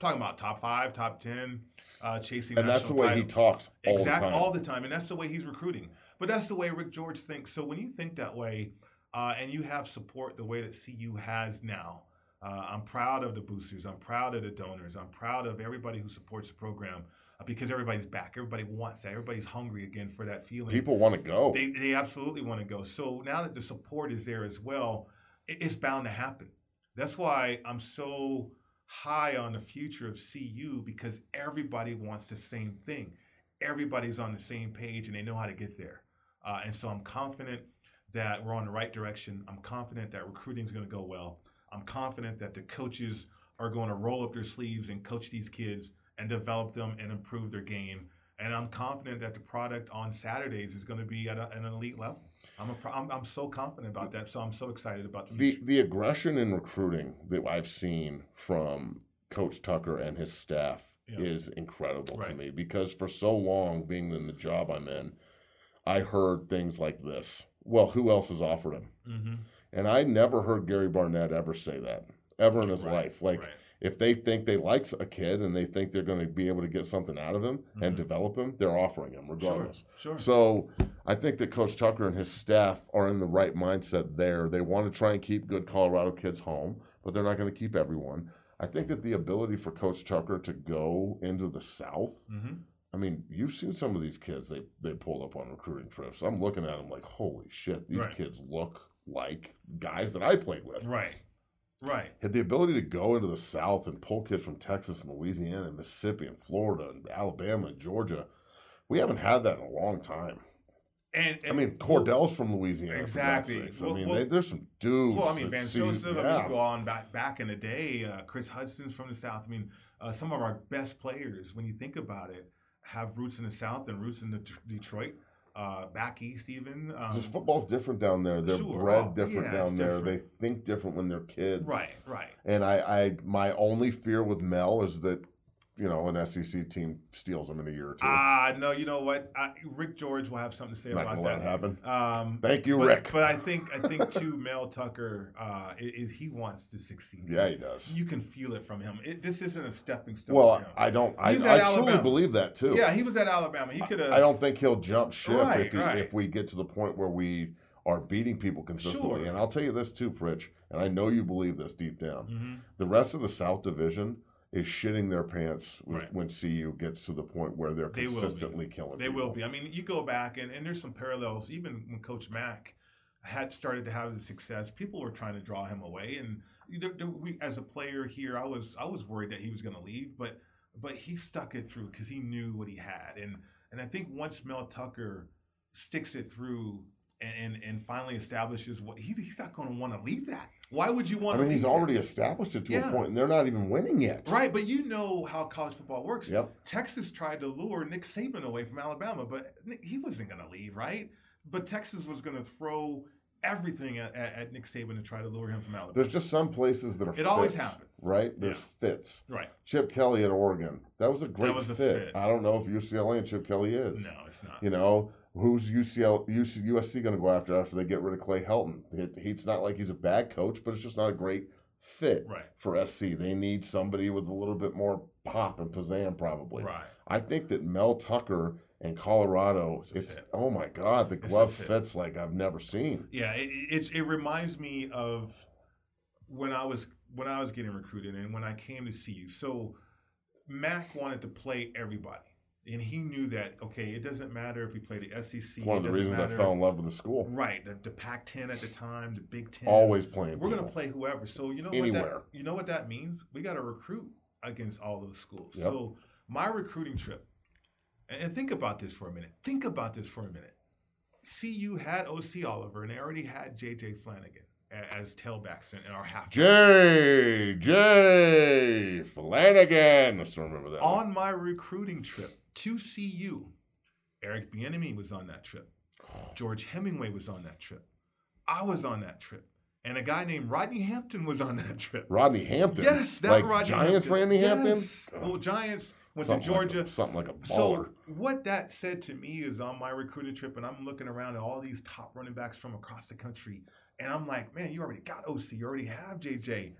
S3: talking about top five, top ten, uh, chasing
S2: And that's the
S3: national
S2: way he
S3: titles.
S2: talks all
S3: Exactly,
S2: the time.
S3: all the time, and that's the way he's recruiting. But that's the way Rick George thinks. So when you think that way, uh, and you have support the way that C U has now, uh, I'm proud of the boosters. I'm proud of the donors. I'm proud of everybody who supports the program uh, because everybody's back. Everybody wants that. Everybody's hungry again for that feeling.
S2: People want to go.
S3: They, they absolutely want to go. So now that the support is there as well, it, it's bound to happen. That's why I'm so high on the future of C U, because everybody wants the same thing. Everybody's on the same page and they know how to get there. Uh, and so I'm confident that we're on the right direction. I'm confident that recruiting is going to go well. I'm confident that the coaches are going to roll up their sleeves and coach these kids and develop them and improve their game. And I'm confident that the product on Saturdays is going to be at a, an elite level. I'm, a, I'm I'm so confident about that. So I'm so excited about the future.
S2: The the aggression in recruiting that I've seen from Coach Tucker and his staff
S3: Yeah.
S2: is incredible to
S3: Right.
S2: me, because for so long, being in the job I'm in, I heard things like this. Well, who else has offered him?
S3: Mm-hmm.
S2: And I never heard Gary Barnett ever say that, ever in his
S3: Right,
S2: life. Like,
S3: right.
S2: if they think they like a kid and they think they're going to be able to get something out of him
S3: Mm-hmm.
S2: and develop him, they're offering him regardless.
S3: Sure, sure.
S2: So I think that Coach Tucker and his staff are in the right mindset there. They want to try and keep good Colorado kids home, but they're not going to keep everyone. I think that the ability for Coach Tucker to go into the South,
S3: Mm-hmm.
S2: I mean, you've seen some of these kids they, they pulled up on recruiting trips. I'm looking at them like, holy shit, these
S3: Right.
S2: kids look like guys that I played with.
S3: Right, right.
S2: Had the ability to go into the South and pull kids from Texas and Louisiana and Mississippi and Florida and Alabama and Georgia. We haven't had that in a long time.
S3: And, and
S2: I mean, Cordell's from Louisiana.
S3: Exactly.
S2: For God's sakes.
S3: Well-
S2: I mean,
S3: well-
S2: they, there's some dudes.
S3: Well, I mean,
S2: that
S3: Van
S2: see-
S3: Joseph, I
S2: yeah.
S3: mean, you go on back back in the day, uh, Chris Hudson's from the South. I mean, uh, some of our best players, when you think about it, have roots in the South and roots in the t- Detroit, uh, back east even. Um,
S2: Just football's different down there. They're
S3: Sure.
S2: bred
S3: Oh,
S2: different
S3: yeah,
S2: down
S3: it's
S2: there.
S3: different.
S2: They think different when they're kids.
S3: Right, right.
S2: And I, I, my only fear with Mel is that, you know, an S E C team steals them in a year or two.
S3: Ah, no, you know what? I, Rick George will have something to say
S2: Not
S3: about
S2: gonna let
S3: that.
S2: it happen.
S3: Um,
S2: Thank you,
S3: but,
S2: Rick.
S3: But I think I think too, Mel Tucker uh, is he wants to succeed.
S2: Yeah, he does.
S3: You can feel it from him. It, this isn't a stepping stone.
S2: Well,
S3: for him.
S2: I don't. I, I
S3: He's at
S2: truly
S3: Alabama.
S2: believe that too.
S3: Yeah, he was at Alabama. He could have.
S2: I don't think he'll jump ship
S3: Right,
S2: if, he,
S3: right.
S2: if we get to the point where we are beating people consistently.
S3: Sure.
S2: And I'll tell you this too, Pritch, and I know you believe this deep down.
S3: Mhm.
S2: The rest of the South Division is shitting their pants with,
S3: Right.
S2: when C U gets to the point where they're
S3: They will be.
S2: consistently killing
S3: They
S2: people.
S3: will be. I mean, you go back and, and there's some parallels. Even when Coach Mack had started to have the success, people were trying to draw him away. And you know, there- we, as a player here, I was I was worried that he was going to leave, but but he stuck it through because he knew what he had. And and I think once Mel Tucker sticks it through and and, and finally establishes what he, he's not going to want to leave that. Why would you want
S2: I
S3: to?
S2: mean,
S3: leave
S2: he's
S3: that?
S2: already established it to
S3: Yeah.
S2: a point, and they're not even winning yet.
S3: Right, but you know how college football works.
S2: Yep.
S3: Texas tried to lure Nick Saban away from Alabama, but Nick- he wasn't going to leave, right? But Texas was going to throw everything at, at, at Nick Saban to try to lure him from Alabama.
S2: There's just some places that are
S3: It
S2: fits,
S3: always happens.
S2: right? There's
S3: Yeah.
S2: fits.
S3: Right.
S2: Chip Kelly at Oregon. That was a great
S3: was a
S2: fit.
S3: fit.
S2: I don't know if U C L A and Chip Kelly is.
S3: No, it's not.
S2: You know, who's U C L, U C, U S C going to go after after they get rid of Clay Helton? It, it's not like he's a bad coach, but it's just not a great fit
S3: Right.
S2: for S C. They need somebody with a little bit more pop and pizzazz, probably.
S3: Right.
S2: I think that Mel Tucker and Colorado,
S3: It's a
S2: it's,
S3: fit.
S2: oh my God, the
S3: a
S2: glove
S3: fit.
S2: fits like I've never seen.
S3: Yeah, it, it's it reminds me of when I was when I was getting recruited and when I came to see you. So Mac wanted to play everybody. And he knew that, okay, it doesn't matter if we play the S E C.
S2: One
S3: it
S2: of the
S3: doesn't
S2: reasons
S3: matter.
S2: I fell in love with the school.
S3: Right, the, the Pac ten at the time, the Big Ten.
S2: Always playing
S3: We're going
S2: people.
S3: to play whoever. So you know
S2: Anywhere.
S3: what that, you know what that means? We got to recruit against all those schools.
S2: Yep.
S3: So my recruiting trip, and, and think about this for a minute. Think about this for a minute. C U had O C Oliver, and they already had J J Flanagan a- as tailbacks in, in our half.
S2: J J Flanagan. I still remember that. one.
S3: On my recruiting trip to C U, Eric Bieniemy was on that trip. George Hemingway was on that trip. I was on that trip. And a guy named Rodney Hampton was on that trip.
S2: Rodney Hampton.
S3: Yes, that
S2: like
S3: Rodney
S2: Giants
S3: Hampton.
S2: Randy
S3: Yes.
S2: Hampton.
S3: Well, Giants went
S2: Something
S3: to Georgia.
S2: Like a, something like a baller.
S3: So what that said to me is on my recruiting trip, and I'm looking around at all these top running backs from across the country, and I'm like, man, you already got O C, you already have J J.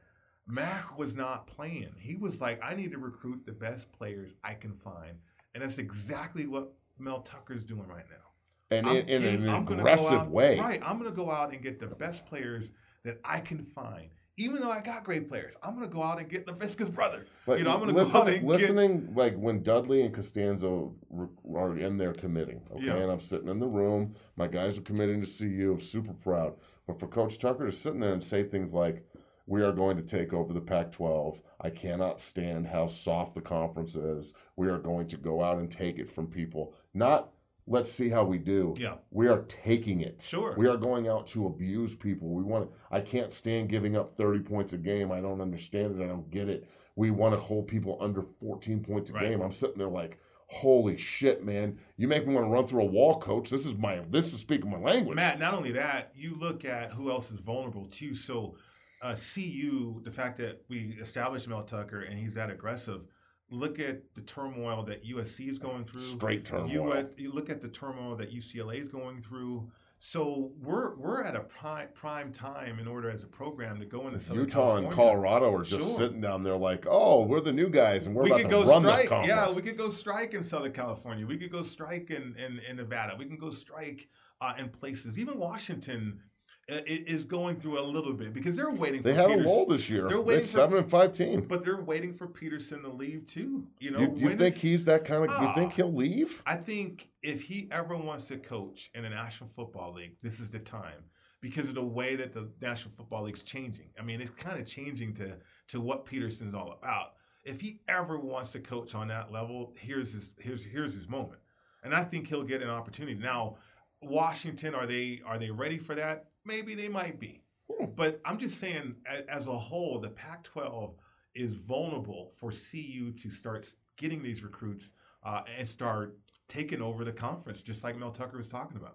S3: Mac was not playing. He was like, I need to recruit the best players I can find. And that's exactly what Mel Tucker's doing right now.
S2: And
S3: I'm
S2: in, in
S3: getting-
S2: an
S3: I'm gonna go
S2: aggressive
S3: out-
S2: way.
S3: Right. I'm going to go out and get the best players that I can find. Even though I got great players, I'm going to go out and get LaVisca's brother.
S2: But
S3: you know, I'm going to
S2: listen,
S3: go out and get...
S2: listening, like when Dudley and Costanzo re- are in there committing, okay,
S3: Yeah.
S2: and I'm sitting in the room, my guys are committing to C U, I'm super proud. But for Coach Tucker to sit in there and say things like, we are going to take over the Pac twelve. I cannot stand how soft the conference is. We are going to go out and take it from people. Not, let's see how we do.
S3: Yeah.
S2: We are taking it.
S3: Sure.
S2: We are going out to abuse people. We want to, I can't stand giving up thirty points a game. I don't understand it. I don't get it. We want to hold people under fourteen points a
S3: Right.
S2: game. I'm sitting there like, holy shit, man. You make me want to run through a wall, coach. This is my, this is speaking my language.
S3: Matt, not only that, you look at who else is vulnerable too. So uh, C U, the fact that we established Mel Tucker and he's that aggressive, look at the turmoil that U S C is going through.
S2: Straight turmoil.
S3: You, at, you look at the turmoil that U C L A is going through. So we're we're at a prime prime time in order as a program to go into Southern
S2: Utah
S3: California.
S2: and Colorado are just
S3: Sure.
S2: sitting down there like, oh, we're the new guys and we're
S3: we
S2: about
S3: could
S2: to
S3: go
S2: run
S3: strike.
S2: this conference.
S3: Yeah, we could go strike in Southern California. We could go strike in, in, in Nevada. We can go strike uh, in places. Even Washington uh, i- is going through a little bit because they're waiting.
S2: They
S3: for
S2: had a
S3: Peters-
S2: lull this year.
S3: They're
S2: They're
S3: waiting for-
S2: seven and five team.
S3: but they're waiting for Peterson to leave too. You know,
S2: You, you
S3: when
S2: think
S3: is-
S2: he's that kind of? You
S3: Ah.
S2: think he'll leave?
S3: I think if he ever wants to coach in the National Football League, this is the time because of the way that the National Football League's changing. I mean, it's kind of changing to to what Peterson's all about. If he ever wants to coach on that level, here's his here's here's his moment, and I think he'll get an opportunity. Now, Washington, are they are they ready for that? Maybe they might be,
S2: Hmm.
S3: but I'm just saying, a- as a whole, the Pac twelve is vulnerable for C U to start getting these recruits uh, and start taking over the conference, just like Mel Tucker was talking about.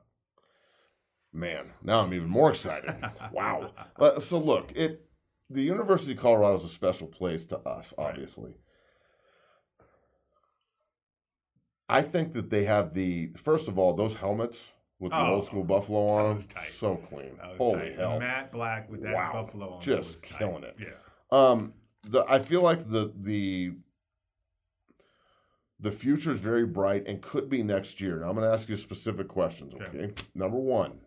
S2: Man, now I'm even more excited. Wow. Uh, so look, it the University of Colorado is a special place to us,
S3: Right.
S2: obviously. I think that they have the first of all those helmets with the
S3: Oh,
S2: old school buffalo
S3: that
S2: on
S3: was
S2: them,
S3: tight.
S2: so clean.
S3: That was
S2: Holy
S3: tight.
S2: hell!
S3: And Matt Black with that
S2: Wow.
S3: buffalo on
S2: Just
S3: was tight.
S2: killing it.
S3: Yeah.
S2: Um, the I feel like the the the future is very bright and could be next year. Now I'm going to ask you specific questions. Okay.
S3: Okay.
S2: Number one,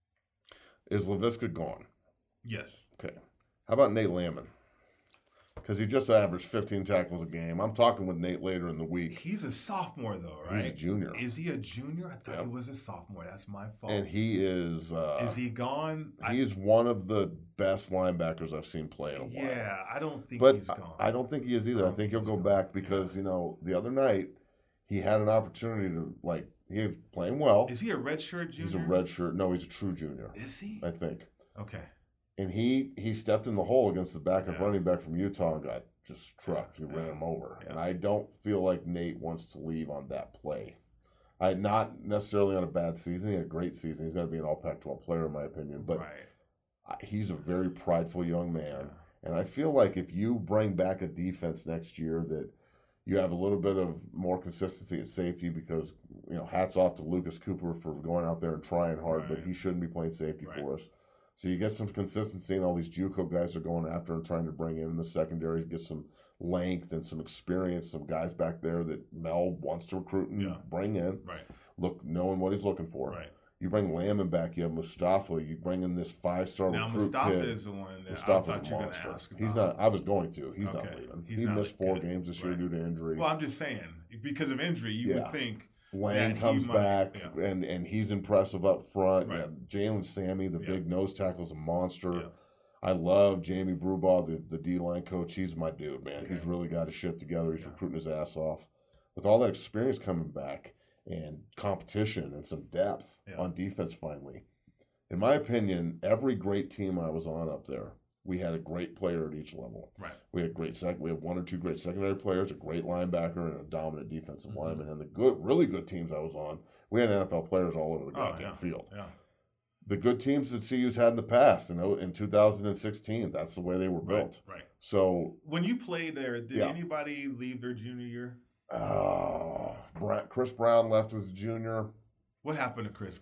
S2: is LaVisca gone?
S3: Yes.
S2: Okay. How about Nate Landman? Because he just averaged fifteen tackles a game. I'm talking with Nate later in the week.
S3: He's a sophomore though, right?
S2: He's a junior.
S3: Is he a junior? I thought
S2: Yep.
S3: he was a sophomore. That's my fault.
S2: And he is uh,
S3: is he gone? I-
S2: he is one of the best linebackers I've seen play in a while.
S3: yeah, I don't think
S2: But
S3: he's gone.
S2: I, I don't think he is either. I think he'll go back because, you know, the other night he had an opportunity to, like, he was playing well.
S3: Is he a redshirt junior?
S2: He's a red shirt. No, he's a true junior,
S3: Is he?
S2: I think.
S3: Okay.
S2: And he he stepped in the hole against the backup
S3: Yeah.
S2: running back from Utah and got just trucked. He
S3: Yeah.
S2: ran him over.
S3: Yeah.
S2: And I don't feel like Nate wants to leave on that play. I not necessarily on a bad season. He had a great season. He's going to be an all Pac twelve player, in my opinion. But
S3: right.
S2: I- he's a very prideful young man.
S3: Yeah.
S2: And I feel like if you bring back a defense next year that you have a little bit of more consistency at safety because, you know, hats off to Lucas Cooper for going out there and trying hard, but
S3: Right.
S2: he shouldn't be playing safety
S3: Right.
S2: for us. So you get some consistency, and all these JUCO guys are going after and trying to bring in in the secondary, get some length and some experience, some guys back there that Mel wants to recruit and
S3: Yeah.
S2: bring in.
S3: Right.
S2: Look, knowing what he's looking for.
S3: Right.
S2: You bring Lamb back, you have Mustafa, you bring in this five-star
S3: Now
S2: recruit
S3: Mustafa
S2: kid.
S3: is the one that I
S2: Mustafa's
S3: thought
S2: a
S3: you were going
S2: monster.
S3: to ask about.
S2: He's not. I was going to. He's not
S3: Okay.
S2: leaving.
S3: He's
S2: he
S3: not
S2: missed four
S3: good.
S2: games this year
S3: Right.
S2: due to injury.
S3: Well, I'm just saying because of injury, you
S2: Yeah.
S3: would think.
S2: Lane
S3: that he
S2: comes
S3: might-
S2: back,
S3: yeah.
S2: and and he's impressive up front.
S3: Right.
S2: Yeah, Jalen Sammy, the
S3: Yeah.
S2: big nose tackle's a monster.
S3: Yeah.
S2: I love Jamie Brubaugh, the, the D-line coach. He's my dude, man.
S3: Okay.
S2: He's really got his shit together. He's
S3: Yeah.
S2: recruiting his ass off. With all that experience coming back and competition and some depth
S3: Yeah.
S2: on defense finally. In my opinion, every great team I was on up there, we had a great player at each level.
S3: Right.
S2: We had great sec. We had one or two great secondary players, a great linebacker, and a dominant defensive
S3: Mhm.
S2: lineman. And the good, really good teams I was on, we had N F L players all over the
S3: Oh,
S2: goddamn
S3: yeah.
S2: field.
S3: Yeah.
S2: The good teams that C U's had in the past, you know, in two thousand sixteen, that's the way they were built.
S3: Right. Right.
S2: So,
S3: When you played there, did
S2: Yeah.
S3: anybody leave their junior year?
S2: uh, Bra- Chris Brown left as a junior.
S3: What happened to Chris Brown?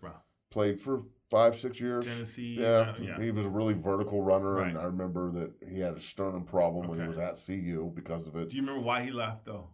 S2: played for five, six years.
S3: Tennessee.
S2: Yeah,
S3: uh, yeah.
S2: he was a really vertical runner,
S3: Right.
S2: and I remember that he had a sternum problem when he
S3: Okay.
S2: was at C U because of it.
S3: Do you remember why he left though?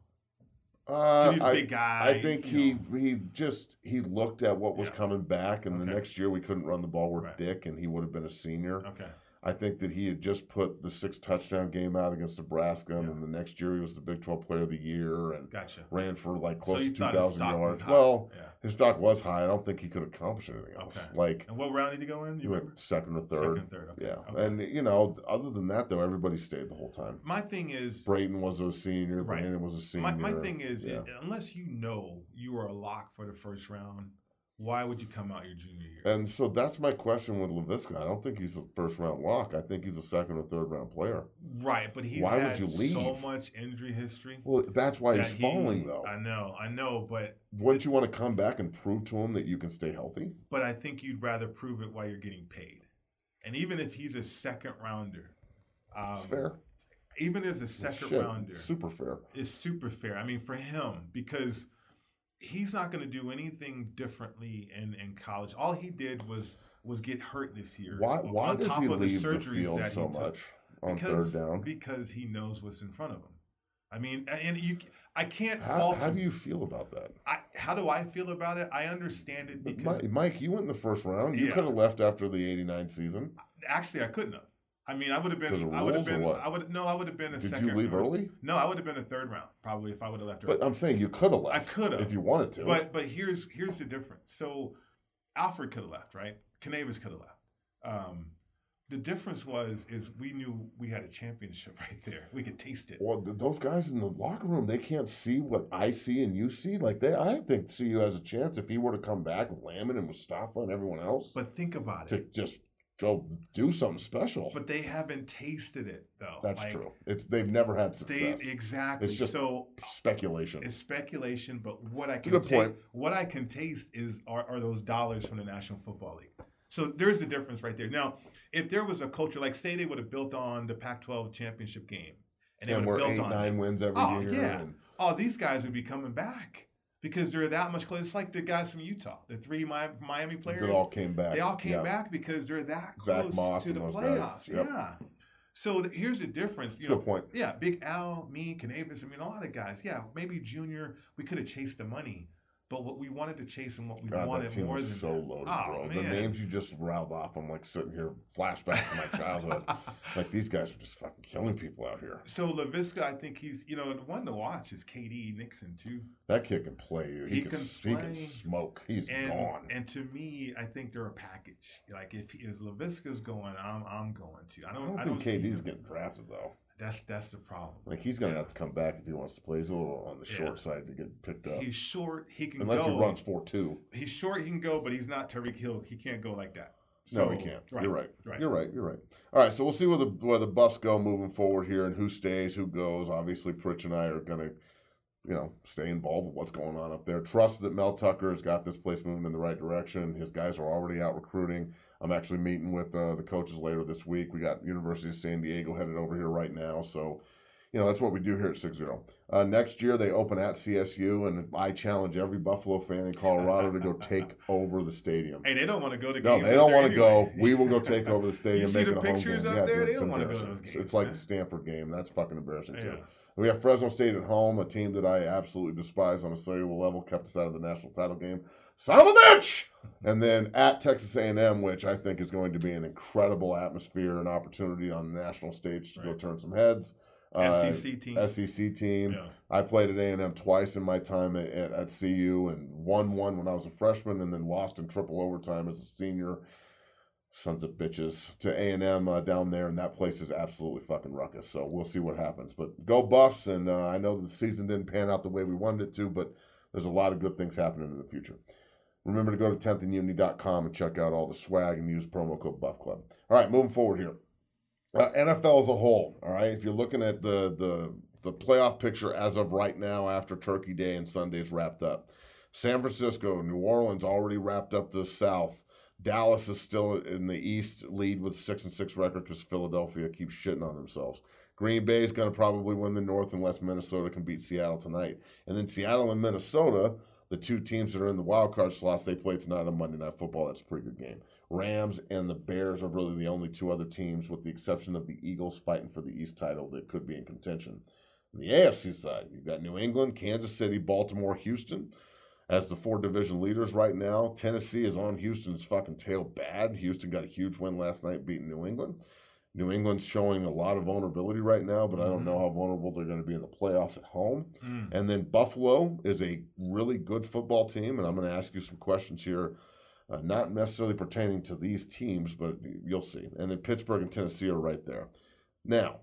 S2: Uh,
S3: He's a
S2: I,
S3: big guy.
S2: I think
S3: you
S2: he
S3: know.
S2: he just he looked at what was
S3: Yeah.
S2: coming back, and the
S3: Okay.
S2: next year we couldn't run the ball with
S3: Right.
S2: Dick, and he would have been a senior.
S3: Okay.
S2: I think that he had just put the six touchdown game out against Nebraska, and
S3: Yeah.
S2: then the next year he was the Big twelve Player of the Year and
S3: Gotcha.
S2: ran for like
S3: So
S2: close
S3: you
S2: to two
S3: thought his
S2: thousand
S3: stock was
S2: yards.
S3: high.
S2: Well,
S3: Yeah.
S2: his stock was high. I don't think he could accomplish anything else.
S3: Okay.
S2: Like
S3: And what round did he go in?
S2: he
S3: You remember?
S2: went second or third.
S3: Second and third. Okay.
S2: Yeah,
S3: Okay.
S2: and you know, other than that though, everybody stayed the whole time.
S3: My thing is,
S2: Brayton was a senior.
S3: Right.
S2: Brandon was a senior.
S3: my, my thing is,
S2: yeah.
S3: it, unless you know you are a lock for the first round, why would you come out your junior year?
S2: And so that's my question with Laviska. I don't think he's a first round lock. I think he's a second or third round player.
S3: Right, but he's
S2: Why would
S3: had
S2: you leave?
S3: so much injury history.
S2: Well, that's why
S3: that
S2: he's
S3: he-
S2: falling though.
S3: I know, I know, but
S2: Wouldn't you want to come back and prove to him that you can stay healthy?
S3: but I think you'd rather prove it while you're getting paid. And even if he's a second rounder, um,
S2: It's fair.
S3: even as a second
S2: Shit,
S3: rounder,
S2: super fair.
S3: is super fair. I mean, for him, because he's not going to do anything differently in, in college. All he did was was get hurt this year.
S2: Why? Why
S3: on
S2: does
S3: top
S2: he
S3: of the
S2: leave the
S3: surgeries
S2: field
S3: that he
S2: so
S3: took.
S2: much on
S3: because,
S2: third down?
S3: Because he knows what's in front of him. I mean, and you, I can't
S2: How,
S3: fault
S2: how
S3: him.
S2: do you feel about that?
S3: I, how do I feel about it? I understand it
S2: But
S3: because
S2: Mike, Mike, you went in the first round. You
S3: Yeah.
S2: could have left after the eighty-nine season.
S3: actually I couldn't have. I mean, I would have
S2: Because
S3: been.
S2: of
S3: I would have
S2: rules or
S3: been.
S2: what?
S3: I would no. I would have been a
S2: Did
S3: second.
S2: you leave
S3: round.
S2: early?
S3: No, I would have been a third round probably if I would have left early.
S2: But I'm saying you could have left.
S3: I could have
S2: if you wanted to.
S3: But but here's here's the difference. So Alfred could have left, right? Canavis could have left. Um, the difference was is we knew we had a championship right there. We could taste it.
S2: Well, th- those guys in the locker room, they can't see what I see and you see. Like they, I think C U has a chance if he were to come back with Lamon and Mustafa and everyone else
S3: But think about
S2: to
S3: it.
S2: just go do something special.
S3: But they haven't tasted it though.
S2: That's
S3: Like,
S2: true. It's they've never had
S3: They
S2: success.
S3: exactly.
S2: It's just
S3: so
S2: speculation.
S3: it's speculation, but what I
S2: a
S3: can
S2: good
S3: ta-
S2: point.
S3: what I can taste is are, are those dollars from the National Football League. So there's a difference right there. Now, if there was a culture like say they would have built on the Pac twelve championship game, and they
S2: And
S3: would
S2: we're
S3: have built
S2: eight,
S3: on
S2: nine
S3: it,
S2: wins every
S3: Oh,
S2: year.
S3: yeah.
S2: And
S3: oh, these guys would be coming back because they're that much close. It's like the guys from Utah, the three Mi- Miami players.
S2: it all came back.
S3: They all came
S2: Yeah.
S3: back because they're that
S2: Zach
S3: close
S2: Moss
S3: to
S2: and
S3: the
S2: those
S3: playoffs.
S2: guys. Yep.
S3: Yeah. So th- here's the difference. You
S2: Good
S3: know,
S2: point.
S3: yeah, Big Al, me, Canavis. I mean, a lot of guys. Yeah, maybe Junior. We could have chased the money, but what we wanted to chase and what we
S2: God,
S3: wanted
S2: that team
S3: more
S2: was
S3: than
S2: so
S3: that.
S2: loaded,
S3: oh,
S2: bro.
S3: Man.
S2: The names you just rattled off, I'm like sitting here, flashbacks to my childhood. Like these guys are just fucking killing people out here.
S3: So Laviska, I think he's you know the one to watch is K D Nixon too.
S2: That kid can play. He,
S3: He
S2: can,
S3: can
S2: he can
S3: play.
S2: smoke. He's
S3: And
S2: gone.
S3: and to me, I think they're a package. Like if if Laviska's going, I'm I'm going to. I
S2: I
S3: don't.
S2: don't
S3: I
S2: think
S3: don't see
S2: K D's
S3: him.
S2: getting drafted though.
S3: That's that's the problem.
S2: Like he's gonna
S3: Yeah.
S2: have to come back if he wants to play. He's a little on the
S3: Yeah.
S2: short side to get picked up.
S3: He's short. He can
S2: Unless
S3: go.
S2: he runs four two.
S3: He's short. He can go, but he's not Tyreek Hill. He can't go like that.
S2: No,
S3: So-
S2: he can't.
S3: Right,
S2: You're right.
S3: right.
S2: You're right. You're right. All right. So we'll see where the where the Buffs go moving forward here, and who stays, who goes. Obviously, Pritch and I are gonna, you know, stay involved with what's going on up there. Trust that Mel Tucker has got this place moving in the right direction. His guys are already out recruiting. I'm actually meeting with uh, the coaches later this week. We got University of San Diego headed over here right now. So, you know, that's what we do here at six zero. Uh, next year, they open at C S U, and I challenge every Buffalo fan in Colorado to go take over the stadium.
S3: Hey, they don't want to go to
S2: No,
S3: games.
S2: they don't
S3: up
S2: want
S3: there
S2: to go.
S3: anyway.
S2: We will go take over the stadium,
S3: You see
S2: make
S3: the
S2: it a home
S3: pictures
S2: game.
S3: up
S2: Yeah,
S3: there?
S2: dude,
S3: They
S2: it's
S3: don't wanna go to
S2: embarrassing.
S3: those games,
S2: It's like
S3: man.
S2: a Stanford game. That's fucking embarrassing too.
S3: Yeah.
S2: We have Fresno State at home, a team that I absolutely despise on a cellular level, kept us out of the national title game. Son of a bitch! And then at Texas A and M, which I think is going to be an incredible atmosphere and opportunity on the national stage to go
S3: Right.
S2: turn some heads.
S3: S E C team.
S2: S E C team.
S3: Yeah.
S2: I played at A and M twice in my time at, at, at C U and won one when I was a freshman and then lost in triple overtime as a senior. Sons of bitches to A and M uh, down there, and that place is absolutely fucking ruckus. So we'll see what happens. But go Buffs, and uh, I know the season didn't pan out the way we wanted it to, but there's a lot of good things happening in the future. Remember to go to tenth and uni dot com and check out all the swag and use promo code Buff Club. All right, moving forward here. Uh, N F L as a whole, all right? If you're looking at the, the, the playoff picture as of right now after Turkey Day and Sunday's wrapped up, San Francisco, New Orleans already wrapped up the South. Dallas is still in the East, lead with six and six record because Philadelphia keeps shitting on themselves. Green Bay is going to probably win the North unless Minnesota can beat Seattle tonight. And then Seattle and Minnesota, the two teams that are in the wild card slots, they play tonight on Monday Night Football. That's a pretty good game. Rams and the Bears are really the only two other teams, with the exception of the Eagles fighting for the East title, that could be in contention. On the A F C side, you've got New England, Kansas City, Baltimore, Houston as the four division leaders right now. Tennessee is on Houston's fucking tail bad. Houston got a huge win last night beating New England. New England's showing a lot of vulnerability right now, but I don't know how vulnerable they're going to be in the playoffs at home. Mm. And then Buffalo is a really good football team, and I'm going to ask you some questions here, uh, not necessarily pertaining to these teams, but you'll see. And then Pittsburgh and Tennessee are right there. Now,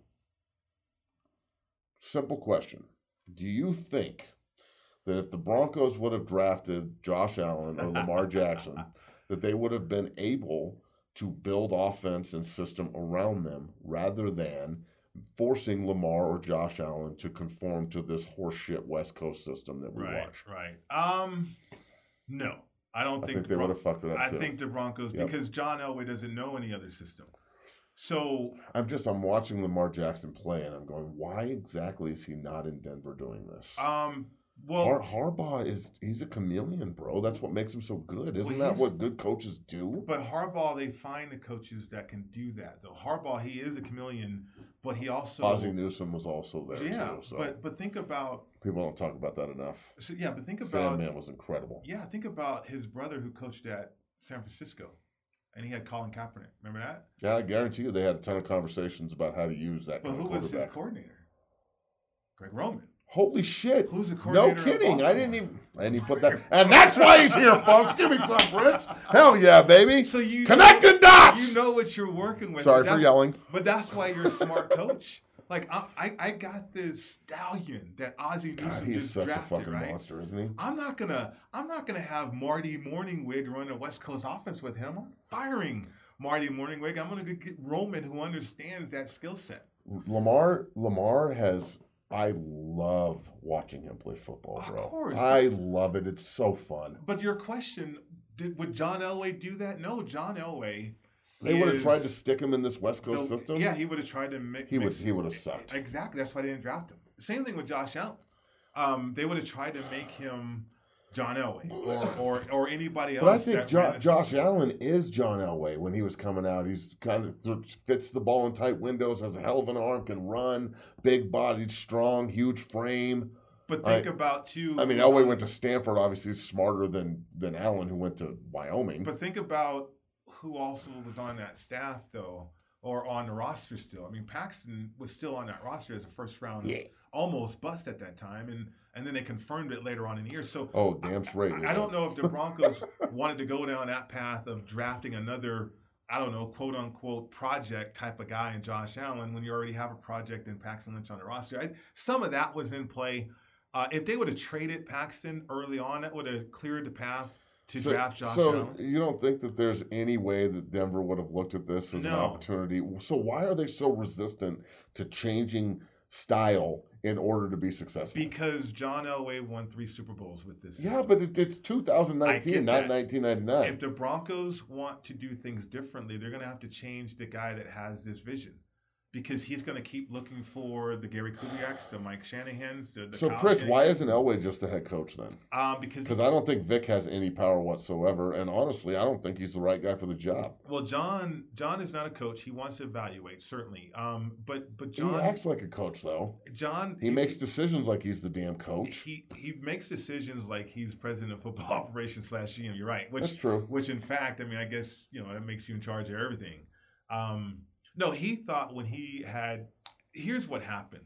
S2: simple question. Do you think that if the Broncos would have drafted Josh Allen or Lamar Jackson, that they would have been able to build offense and system around them rather than forcing Lamar or Josh Allen to conform to this horseshit West Coast system that we
S3: right,
S2: watch?
S3: Right. Um, no, I don't
S2: I
S3: think,
S2: think
S3: the
S2: they
S3: Bron-
S2: would have fucked it up
S3: I
S2: too.
S3: think the Broncos,
S2: Yep.
S3: because John Elway doesn't know any other system. So
S2: I'm just I'm watching Lamar Jackson play and I'm going, why exactly is he not in Denver doing this?
S3: Um, well,
S2: Har- Harbaugh is he's a chameleon, bro. That's what makes him so good. Isn't
S3: well,
S2: that what good coaches do?
S3: But Harbaugh, they find the coaches that can do that. Though Harbaugh, he is a chameleon, but he also
S2: Ozzie Newsome was also there
S3: yeah,
S2: too. So
S3: but but think about
S2: people don't talk about that enough.
S3: so yeah, but think about
S2: Sandman was incredible.
S3: Yeah, think about his brother who coached at San Francisco, and he had Colin Kaepernick. Remember that?
S2: Yeah, I guarantee you they had a ton of conversations about how to use that
S3: But
S2: kind
S3: who
S2: of
S3: was his
S2: quarterback.
S3: coordinator? Greg Roman.
S2: Holy shit!
S3: Who's the
S2: No
S3: coordinator? of
S2: kidding! I
S3: Baltimore?
S2: didn't even. I didn't even put that. And that's why he's here, folks. Give me some, Rich. Hell yeah, baby!
S3: So you
S2: Connecting
S3: know,
S2: dots.
S3: You know what you're working with.
S2: Sorry
S3: but
S2: for
S3: that's-
S2: yelling.
S3: But that's why you're a smart coach. Like I, I, I got this stallion that Ozzie Newsome
S2: God, he's
S3: just
S2: such
S3: drafted,
S2: a fucking
S3: right?
S2: monster, isn't he?
S3: I'm not gonna, I'm not gonna have Marty Morningwig run a West Coast offense with him. I'm firing Marty Morningwig. I'm gonna go get Roman, who understands that skill set.
S2: Lamar, Lamar has. I love watching him play football, bro.
S3: Of course.
S2: I love it. It's so fun.
S3: But your question, did, would John Elway do that? No, John Elway.
S2: They would have
S3: is
S2: tried to stick him in this West Coast
S3: the-
S2: system.
S3: Yeah, he would have tried to mix.
S2: He would. He would have sucked.
S3: Exactly. That's why they didn't draft him. Same thing with Josh Allen. Um, they would have tried to make him John Elway or or, or anybody else.
S2: But I think
S3: that
S2: jo-
S3: ran the
S2: Josh
S3: system.
S2: Allen is John Elway when he was coming out. He's kind of th- fits the ball in tight windows, has a hell of an arm, can run, big bodied, strong, huge frame.
S3: But think
S2: I-
S3: about too.
S2: I mean,
S3: who's
S2: Elway
S3: on-
S2: went to Stanford, obviously smarter than than Allen, who went to Wyoming.
S3: But think about who also was on that staff though, or on the roster still. I mean, Paxton was still on that roster as a first round,
S2: Yeah.
S3: almost bust at that time, and and then they confirmed it later on in the year. So
S2: Oh, damn straight.
S3: I, I don't know if the Broncos wanted to go down that path of drafting another, I don't know, quote unquote project type of guy in Josh Allen when you already have a project in Paxton Lynch on the roster. I, some of that was in play. Uh, if they would have traded Paxton early on, that would have cleared the path to
S2: So,
S3: draft Josh
S2: so
S3: Allen.
S2: you don't think that there's any way that Denver would have looked at this as an
S3: No.
S2: opportunity? So why are they so resistant to changing style in order to be successful?
S3: Because John Elway won three Super Bowls with this.
S2: Yeah, but it, it's two thousand
S3: I
S2: nineteen,
S3: get
S2: not
S3: that.
S2: nineteen ninety-nine.
S3: If the Broncos want to do things differently, they're going to have to change the guy that has this vision. Because he's going to keep looking for the Gary Kubiaks, the Mike Shanahans, the, the
S2: So,
S3: Kyle
S2: Chris, why
S3: Shanahans.
S2: isn't Elway just the head coach then?
S3: Um, because
S2: Because I don't think Vic has any power whatsoever, and honestly, I don't think he's the right guy for the job.
S3: well, John John is not a coach. He wants to evaluate certainly. Um, but but
S2: He
S3: John
S2: acts like a coach, though.
S3: John
S2: He makes decisions like he's the damn coach.
S3: he he makes decisions like he's president of football operations slash G M. You're right. Which
S2: That's true.
S3: Which in fact, I mean, I guess you know that makes you in charge of everything. Um, no, he thought when he had. Here's what happened.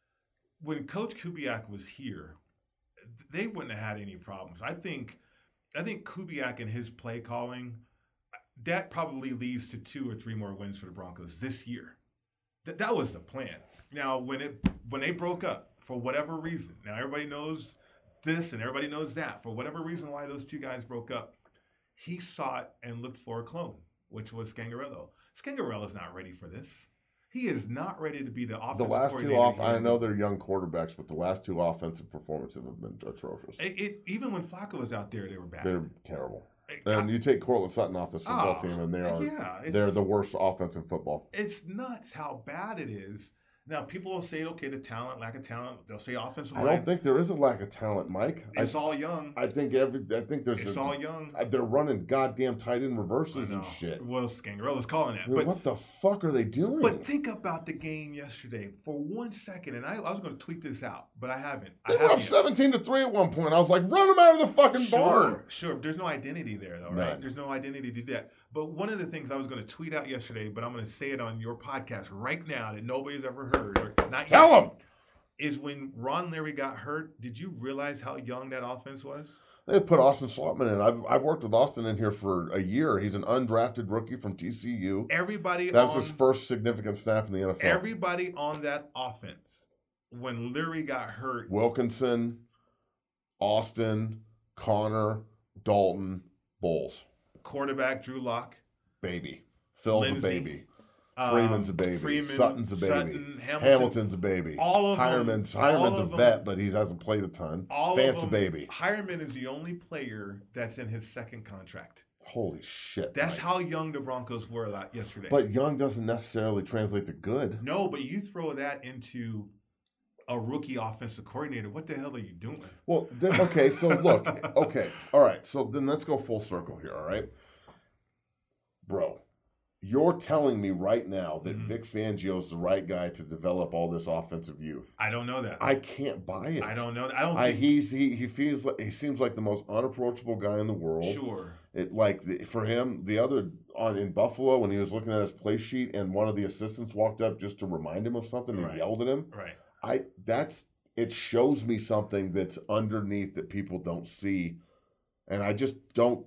S3: When Coach Kubiak was here, they wouldn't have had any problems. I think, I think Kubiak and his play calling, that probably leads to two or three more wins for the Broncos this year. That that was the plan. Now, when it when they broke up for whatever reason, now everybody knows this and everybody knows that. For whatever reason why those two guys broke up, he sought and looked for a clone, which was Scangarello. Scangarello's not ready for this. He is not ready to be the offensive
S2: The last two
S3: coordinator
S2: off,
S3: here.
S2: I know they're young quarterbacks, but the last two offensive performances have been atrocious.
S3: It, it, even when Flacco was out there, they were bad.
S2: They're terrible.
S3: It-
S2: And
S3: I-
S2: you take Cortland Sutton off this football
S3: Oh,
S2: team, and they are
S3: yeah, it's-
S2: they're the worst offense in football.
S3: It's nuts how bad it is Now, people will say, okay, the talent, lack of talent. They'll say offensive
S2: I
S3: line.
S2: don't think there is a lack of talent, Mike.
S3: It's
S2: I,
S3: all young.
S2: I think every. I think there's.
S3: It's
S2: a,
S3: all young.
S2: They're running goddamn tight end reverses
S3: I
S2: and
S3: know.
S2: shit.
S3: Well, Scangarella's calling that.
S2: I mean,
S3: But
S2: what the fuck are they doing?
S3: But think about the game yesterday for one second, and I, I was going to tweet this out, but I haven't.
S2: They
S3: I
S2: were up
S3: haven't yet.
S2: seventeen to three at one point. I was like, run them out of the fucking
S3: Sure,
S2: barn.
S3: sure. There's no identity there, though,
S2: None.
S3: right? There's no identity to do that. But one of the things I was going to tweet out yesterday, but I'm going to say it on your podcast right now that nobody's ever heard, or not
S2: Tell
S3: yet,
S2: them.
S3: is when Ron Leary got hurt. Did you realize how young that offense was?
S2: They put Austin Slotman in. I've, I've worked with Austin in here for a year. He's an undrafted rookie from T C U.
S3: Everybody
S2: That was
S3: on,
S2: his first significant snap in the N F L.
S3: Everybody on that offense, when Leary got hurt,
S2: Wilkinson, Austin, Connor, Dalton, Bowles.
S3: quarterback Drew Lock,
S2: Baby. Phil's
S3: Lindsey,
S2: a baby.
S3: um,
S2: Freeman's a baby.
S3: Freeman,
S2: Sutton's a baby.
S3: Sutton, Hamilton,
S2: Hamilton's a baby.
S3: all of them-
S2: Hireman's,
S3: all
S2: Hireman's a
S3: of them-
S2: vet, but he hasn't played a ton.
S3: all
S2: Fant's
S3: of
S2: a
S3: them.
S2: baby.
S3: Hireman is the only player that's in his second contract.
S2: Holy shit.
S3: That's
S2: Mike.
S3: how young the Broncos were that yesterday.
S2: But young doesn't necessarily translate to good.
S3: no, but you throw that into a rookie offensive coordinator. What the hell are you doing?
S2: Well, then, okay, so look, okay, all right, so then let's go full circle here, all right? Bro, you're telling me right now that
S3: Mhm.
S2: Vic Fangio's the right guy to develop all this offensive youth.
S3: I don't know that.
S2: I can't buy it.
S3: I don't know. I don't.
S2: I,
S3: think,
S2: he's he he feels like he seems like the most unapproachable guy in the world.
S3: sure.
S2: It like the, for him, the other on in Buffalo when he was looking at his play sheet and one of the assistants walked up just to remind him of something and
S3: Right.
S2: yelled at him.
S3: Right.
S2: I that's it shows me something that's underneath that people don't see, and I just don't.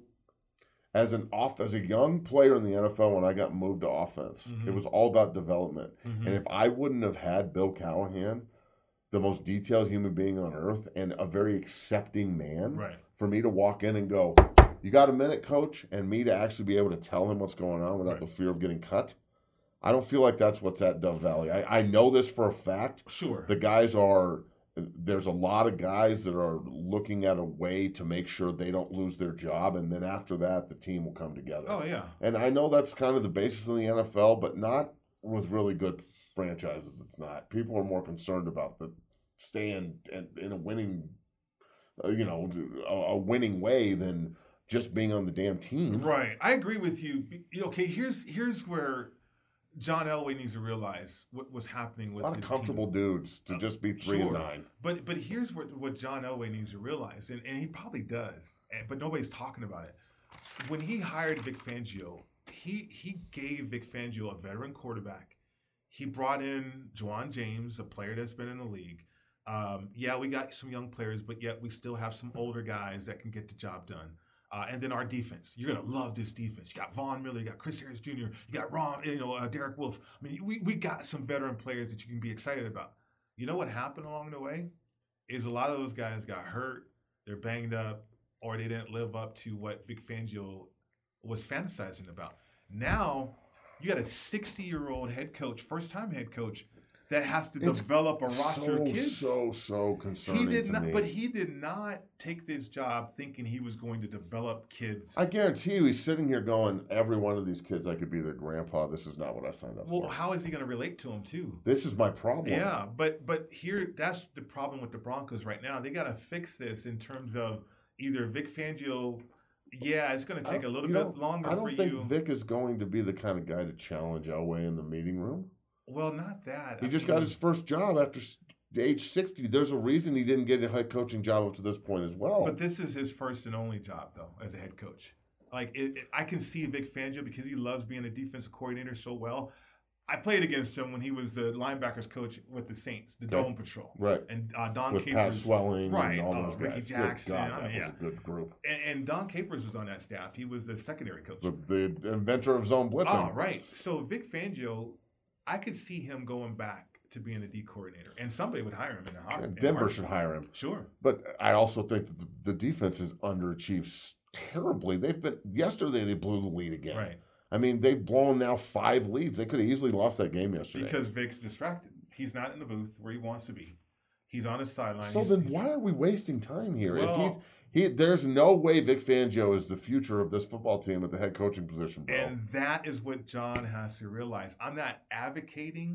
S2: As an off as a young player in the N F L, when I got moved to offense,
S3: Mhm.
S2: it was all about development.
S3: Mhm.
S2: And if I wouldn't have had Bill Callahan, the most detailed human being on earth and a very accepting man,
S3: Right.
S2: for me to walk in and go, "You got a minute, coach," and me to actually be able to tell him what's going on without
S3: Right.
S2: the fear of getting cut. I don't feel like that's what's at Dove Valley. I, I know this for a fact.
S3: Sure.
S2: The guys are, there's a lot of guys that are looking at a way to make sure they don't lose their job. And then after that, the team will come together.
S3: oh yeah.
S2: And I know that's kind of the basis in the N F L, but not with really good franchises. It's not. People are more concerned about the staying in, in a winning, uh, you know, a, a winning way than just being on the damn team.
S3: Right. I agree with you. Okay. Here's here's where John Elway needs to realize what was happening
S2: A
S3: with
S2: lot of
S3: his
S2: comfortable
S3: team.
S2: dudes to just be three
S3: Sure.
S2: and nine.
S3: But but here's what, what John Elway needs to realize, and, and he probably does, and, but nobody's talking about it. When he hired Vic Fangio, he he gave Vic Fangio a veteran quarterback. He brought in Juwan James, a player that's been in the league. Um, yeah, we got some young players, but yet we still have some older guys that can get the job done. Uh, and then our defense. You're going to love this defense. You got Von Miller, you got Chris Harris Junior, you got Ron, you know, uh, Derek Wolf. I mean, we, we got some veteran players that you can be excited about. You know what happened along the way? Is a lot of those guys got hurt, they're banged up, or they didn't live up to what Vic Fangio was fantasizing about. Now, you got a sixty-year-old head coach, first-time head coach, that has to
S2: It's
S3: develop a roster
S2: so,
S3: of kids.
S2: So, so concerning
S3: He did
S2: to
S3: not,
S2: me.
S3: but he did not take this job thinking he was going to develop kids.
S2: I guarantee you he's sitting here going, every one of these kids, I could be their grandpa. This is not what I signed up
S3: well,
S2: for.
S3: how is he going to relate to them too?
S2: This is my problem.
S3: Yeah, but but here that's the problem with the Broncos right now. They got to fix this in terms of either Vic Fangio. Yeah, it's going to take a little
S2: You
S3: bit
S2: know,
S3: longer
S2: I don't
S3: for
S2: think
S3: you.
S2: Vic is going to be the kind of guy to challenge Elway in the meeting room.
S3: Well, not that.
S2: He
S3: I
S2: just
S3: mean,
S2: got his first job after s- age sixty. There's a reason he didn't get a head coaching job up to this point as well.
S3: But this is his first and only job, though, as a head coach. Like, it, it, I can see Vic Fangio because he loves being a defensive coordinator so well. I played against him when he was the linebackers coach with the Saints, the
S2: Okay.
S3: Dome Patrol.
S2: right.
S3: And uh, Don
S2: With
S3: Capers.
S2: Pat Swelling
S3: right,
S2: and all
S3: uh,
S2: those
S3: Ricky
S2: guys.
S3: Jackson,
S2: Good God,
S3: I
S2: that
S3: mean,
S2: was a good group.
S3: And, and Don Capers was on that staff. He was the secondary coach.
S2: The, the inventor of zone blitzing.
S3: Oh, right. So Vic Fangio, I could see him going back to being a D coordinator. And somebody would hire him in a heart.
S2: Yeah,
S3: in a
S2: Denver
S3: heartbeat.
S2: should hire him.
S3: Sure.
S2: But I also think that the, the defense is underachieved s- terribly. They've been yesterday they blew the lead again.
S3: Right.
S2: I mean, they've blown now five leads. They could have easily lost that game yesterday.
S3: Because Vic's distracted. He's not in the booth where he wants to be. He's on his sideline.
S2: so
S3: He's-
S2: then
S3: he's-
S2: why are we wasting time here?
S3: Well-
S2: if he's he there's no way Vic Fangio is the future of this football team at the head coaching position, bro.
S3: And that is what John has to realize. I'm not advocating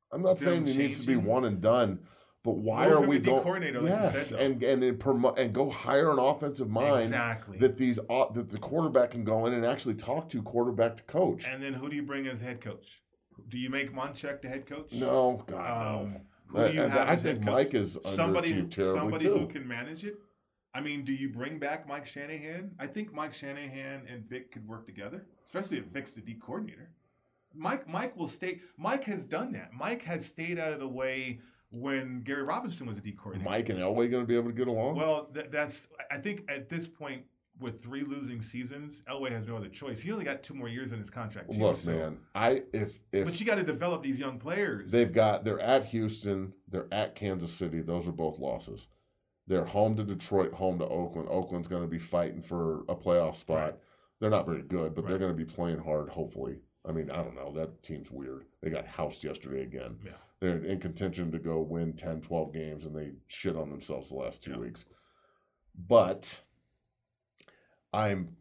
S2: I'm not saying he needs to be one and done, but why are we going?
S3: Coordinator,
S2: yes,
S3: like
S2: and and and, promo- and go hire an offensive mind
S3: exactly.
S2: that these uh, that the quarterback can go in and actually talk to quarterback to coach.
S3: And then who do you bring as head coach? Do you make Munchak the head coach?
S2: No, God
S3: um,
S2: no.
S3: Who do you
S2: I,
S3: have
S2: I
S3: as
S2: think
S3: head coach?
S2: Mike is
S3: somebody
S2: underachieved terribly
S3: somebody
S2: too.
S3: who can manage it. I mean, do you bring back Mike Shanahan? I think Mike Shanahan and Vic could work together, especially if Vic's the D coordinator. Mike Mike will stay. Mike has done that. Mike has stayed out of the way when Gary Robinson was a D coordinator.
S2: Mike and Elway going to be able to get along?
S3: Well, th- that's. I think at this point, with three losing seasons, Elway has no other choice. He only got two more years in his contract. Too,
S2: Look,
S3: so.
S2: man, I if if
S3: But you got to develop these young players.
S2: They've got they're at Houston, they're at Kansas City. Those are both losses. They're home to Detroit, home to Oakland. Oakland's going to be fighting for a playoff spot.
S3: Right.
S2: They're not very good, but
S3: Right.
S2: they're going to be playing hard, hopefully. I mean, I don't know. That team's weird. They got housed yesterday again.
S3: Yeah.
S2: They're in contention to go win ten, twelve games, and they shit on themselves the last two
S3: Yeah.
S2: weeks. But I'm,